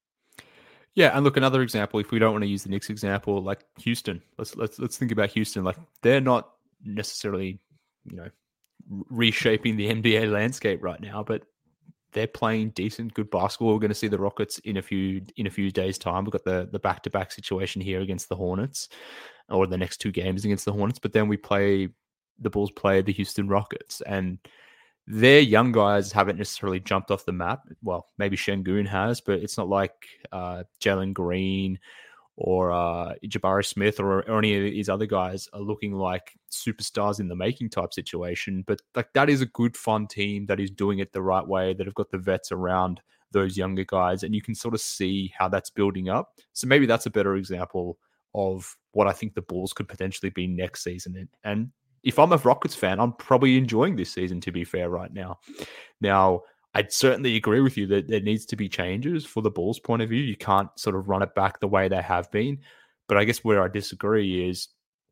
Yeah. And look, another example, if we don't want to use the Knicks example, like Houston, let's, let's, let's think about Houston. Like they're not necessarily, you know, reshaping the N B A landscape right now, but they're playing decent, good basketball. We're going to see the Rockets in a few, in a few days time. We've got the, the back-to-back situation here against the Hornets, or the next two games against the Hornets, but then we play, the Bulls play the Houston Rockets, and their young guys haven't necessarily jumped off the map. Well, maybe Şengün has, but it's not like uh, Jalen Green or uh, Jabari Smith or, or any of these other guys are looking like superstars in the making type situation. But like that is a good, fun team that is doing it the right way, that have got the vets around those younger guys, and you can sort of see how that's building up. So maybe that's a better example of what I think the Bulls could potentially be next season. And, and if I'm a Rockets fan, I'm probably enjoying this season, to be fair, right now. Now, I'd certainly agree with you that there needs to be changes for the Bulls' point of view. You can't sort of run it back the way they have been. But I guess where I disagree is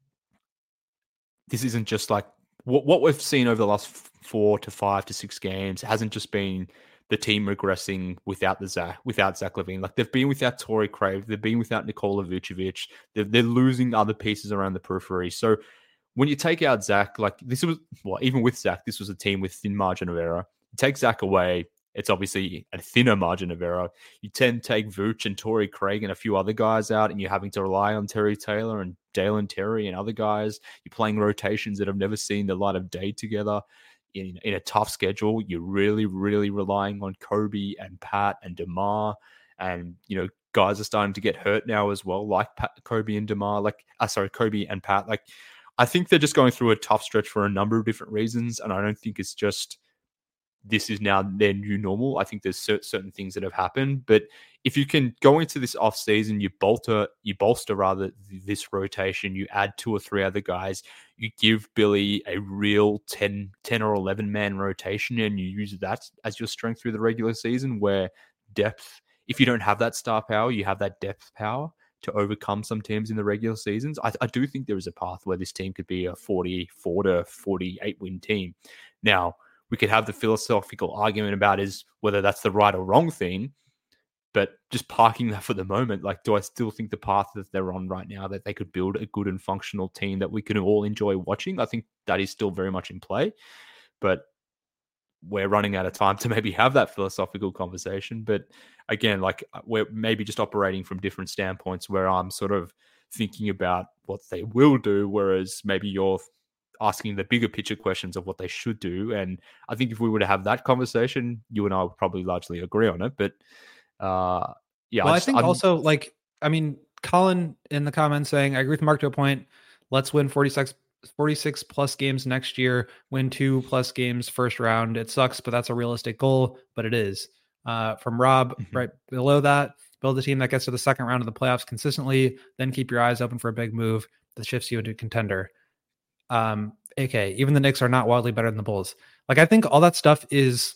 this isn't just like what, what we've seen over the last four to five to six games hasn't just been the team regressing without the Zach, without Zach LaVine. Like they've been without Torrey Craig, they've been without Nikola Vucevic. They're, they're losing other pieces around the periphery. So when you take out Zach, like this was, well, even with Zach, this was a team with thin margin of error. You take Zach away, it's obviously a thinner margin of error. You tend to take Vooch and Torrey Craig and a few other guys out, and you're having to rely on Terry Taylor and Dalen Terry and other guys. You're playing rotations that have never seen the light of day together. In, in a tough schedule, you're really, really relying on Kobe and Pat and DeMar. And, you know, guys are starting to get hurt now as well, like Pat, Kobe and DeMar. Like, uh, sorry, Kobe and Pat. Like, I think they're just going through a tough stretch for a number of different reasons. And I don't think it's just this is now their new normal. I think there's certain things that have happened. But if you can go into this off season, you bolster, you bolster rather this rotation, you add two or three other guys, you give Billy a real ten, ten or eleven man rotation, and you use that as your strength through the regular season, where depth, if you don't have that star power, you have that depth power to overcome some teams in the regular seasons. I, I do think there is a path where this team could be a forty-four to forty-eight win team. Now, we could have the philosophical argument about is whether that's the right or wrong thing, but just parking that for the moment, like, do I still think the path that they're on right now, that they could build a good and functional team that we can all enjoy watching? I think that is still very much in play, but we're running out of time to maybe have that philosophical conversation. But again, like, we're maybe just operating from different standpoints, where I'm sort of thinking about what they will do, whereas maybe you're asking the bigger picture questions of what they should do. And I think if we were to have that conversation, you and I would probably largely agree on it. But uh, yeah, well, I, I, just, I think I'm, also, like, I mean, Colin in the comments saying, I agree with Mark to a point. Let's win forty-six, forty-six plus games next year, win two plus games first round. It sucks, but that's a realistic goal, but it is. Uh, from Rob, mm-hmm. right below that, build a team that gets to the second round of the playoffs consistently, then keep your eyes open for a big move that shifts you into a contender. Um, A K, even the Knicks are not wildly better than the Bulls. Like, I think all that stuff is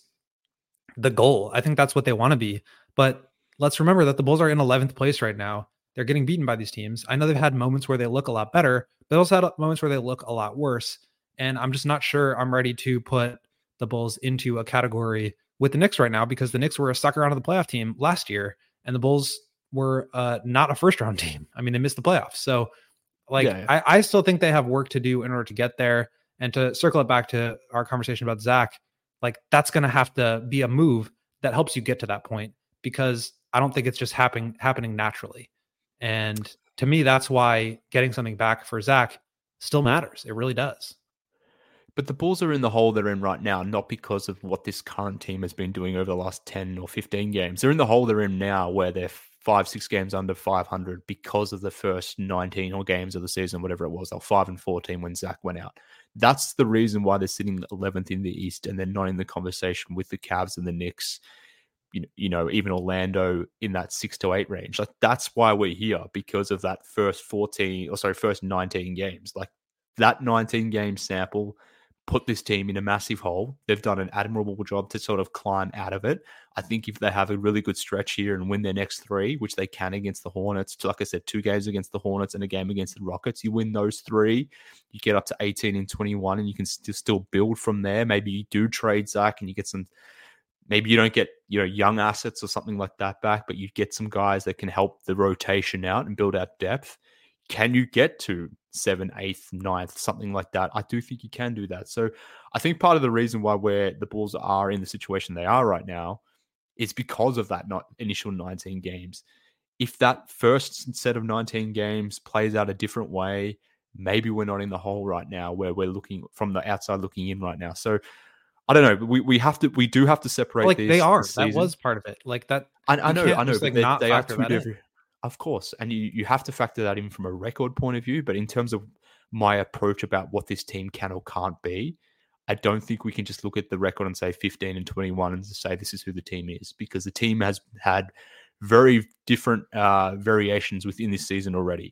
the goal. I think that's what they want to be. But let's remember that the Bulls are in eleventh place right now. They're getting beaten by these teams. I know they've had moments where they look a lot better, but also had moments where they look a lot worse. And I'm just not sure I'm ready to put the Bulls into a category with the Knicks right now, because the Knicks were a sucker out of the playoff team last year, and the Bulls were uh, not a first round team. I mean, they missed the playoffs. So Like, yeah, yeah. I, I still think they have work to do in order to get there. And to circle it back to our conversation about Zach, like, that's going to have to be a move that helps you get to that point, because I don't think it's just happening happening naturally. And to me, that's why getting something back for Zach still matters. It really does. But the Bulls are in the hole they're in right now, not because of what this current team has been doing over the last ten or fifteen games. They're in the hole they're in now, where they're five, six games under five hundred because of the first nineteen or games of the season, whatever it was. They were five and fourteen when Zach went out. That's the reason why they're sitting eleventh in the East, and they're not in the conversation with the Cavs and the Knicks, you know, you know, even Orlando in that six to eight range. Like, that's why we're here, because of that first fourteen, or sorry, first nineteen games. Like, that nineteen game sample put this team in a massive hole. They've done an admirable job to sort of climb out of it. I think if they have a really good stretch here and win their next three, which they can against the Hornets, like I said, two games against the Hornets and a game against the Rockets, you win those three, you get up to eighteen and twenty-one, and you can st- still build from there. Maybe you do trade Zach and you get some, maybe you don't get, you know, young assets or something like that back, but you get some guys that can help the rotation out and build out depth. Can you get to seventh, eighth, ninth, something like that? I do think you can do that. So I think part of the reason why we're, the Bulls are in the situation they are right now is because of that not initial nineteen games. If that first set of nineteen games plays out a different way, maybe we're not in the hole right now where we're looking from the outside looking in right now. So I don't know. We we have to we do have to separate like these. They are. That was part of it. Like that. I, I know. I know. Just, but like, they, they are factor two that in. different. Of course. And you, you have to factor that in from a record point of view. But in terms of my approach about what this team can or can't be, I don't think we can just look at the record and say fifteen and twenty-one and say this is who the team is, because the team has had very different uh, variations within this season already.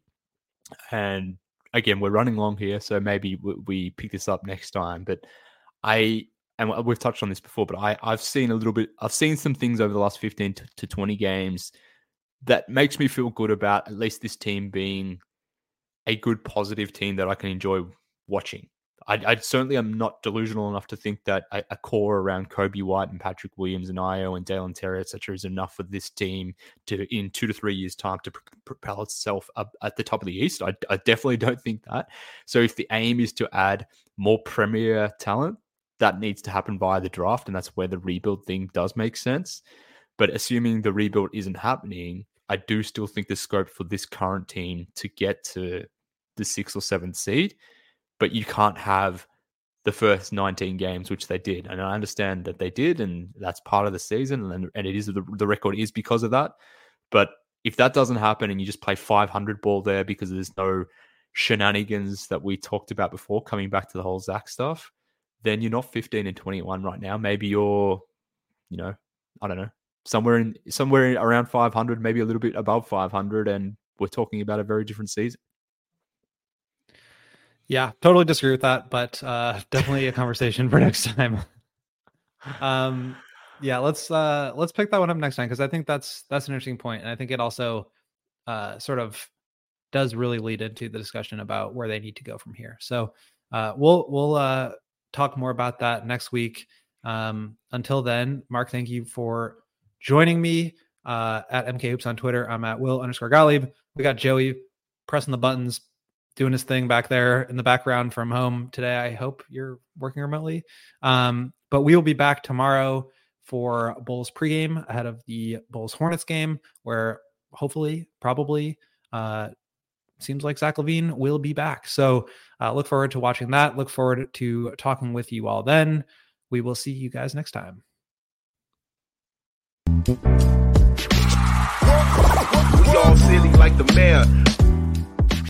And again, we're running long here, so maybe we, we pick this up next time. But I, and we've touched on this before, but I, I've seen a little bit, I've seen some things over the last fifteen to twenty games that makes me feel good about at least this team being a good, positive team that I can enjoy watching. I, I certainly am not delusional enough to think that a, a core around Kobe White and Patrick Williams and Io and Dalen Terry, et cetera, is enough for this team to, in two to three years' time, to pr- propel itself up at the top of the East. I, I definitely don't think that. So if the aim is to add more premier talent, that needs to happen via the draft, and that's where the rebuild thing does make sense. But assuming the rebuild isn't happening, I do still think there's scope for this current team to get to the sixth or seventh seed. But you can't have the first nineteen games, which they did. And I understand that they did, and that's part of the season, and, and it is the, the record is because of that. But if that doesn't happen and you just play five hundred ball there because there's no shenanigans that we talked about before, coming back to the whole Zach stuff, then you're not fifteen and twenty-one right now. Maybe you're, you know, I don't know, somewhere in somewhere around five hundred, maybe a little bit above five hundred, and we're talking about a very different season. Yeah, totally disagree with that, but uh, definitely a conversation for next time. um, yeah, let's uh, let's pick that one up next time, because I think that's that's an interesting point, and I think it also uh, sort of does really lead into the discussion about where they need to go from here. So uh, we'll we'll uh, talk more about that next week. Um, until then, Mark, thank you for joining me uh, at M K Hoops on Twitter. I'm at Will underscore Gottlieb. We got Joey pressing the buttons, doing his thing back there in the background from home today. I hope you're working remotely. Um, but we will be back tomorrow for Bulls pregame ahead of the Bulls Hornets game, where hopefully, probably, uh, seems like Zach LaVine will be back. So uh, look forward to watching that. Look forward to talking with you all then. We will see you guys next time. We all silly like the mayor.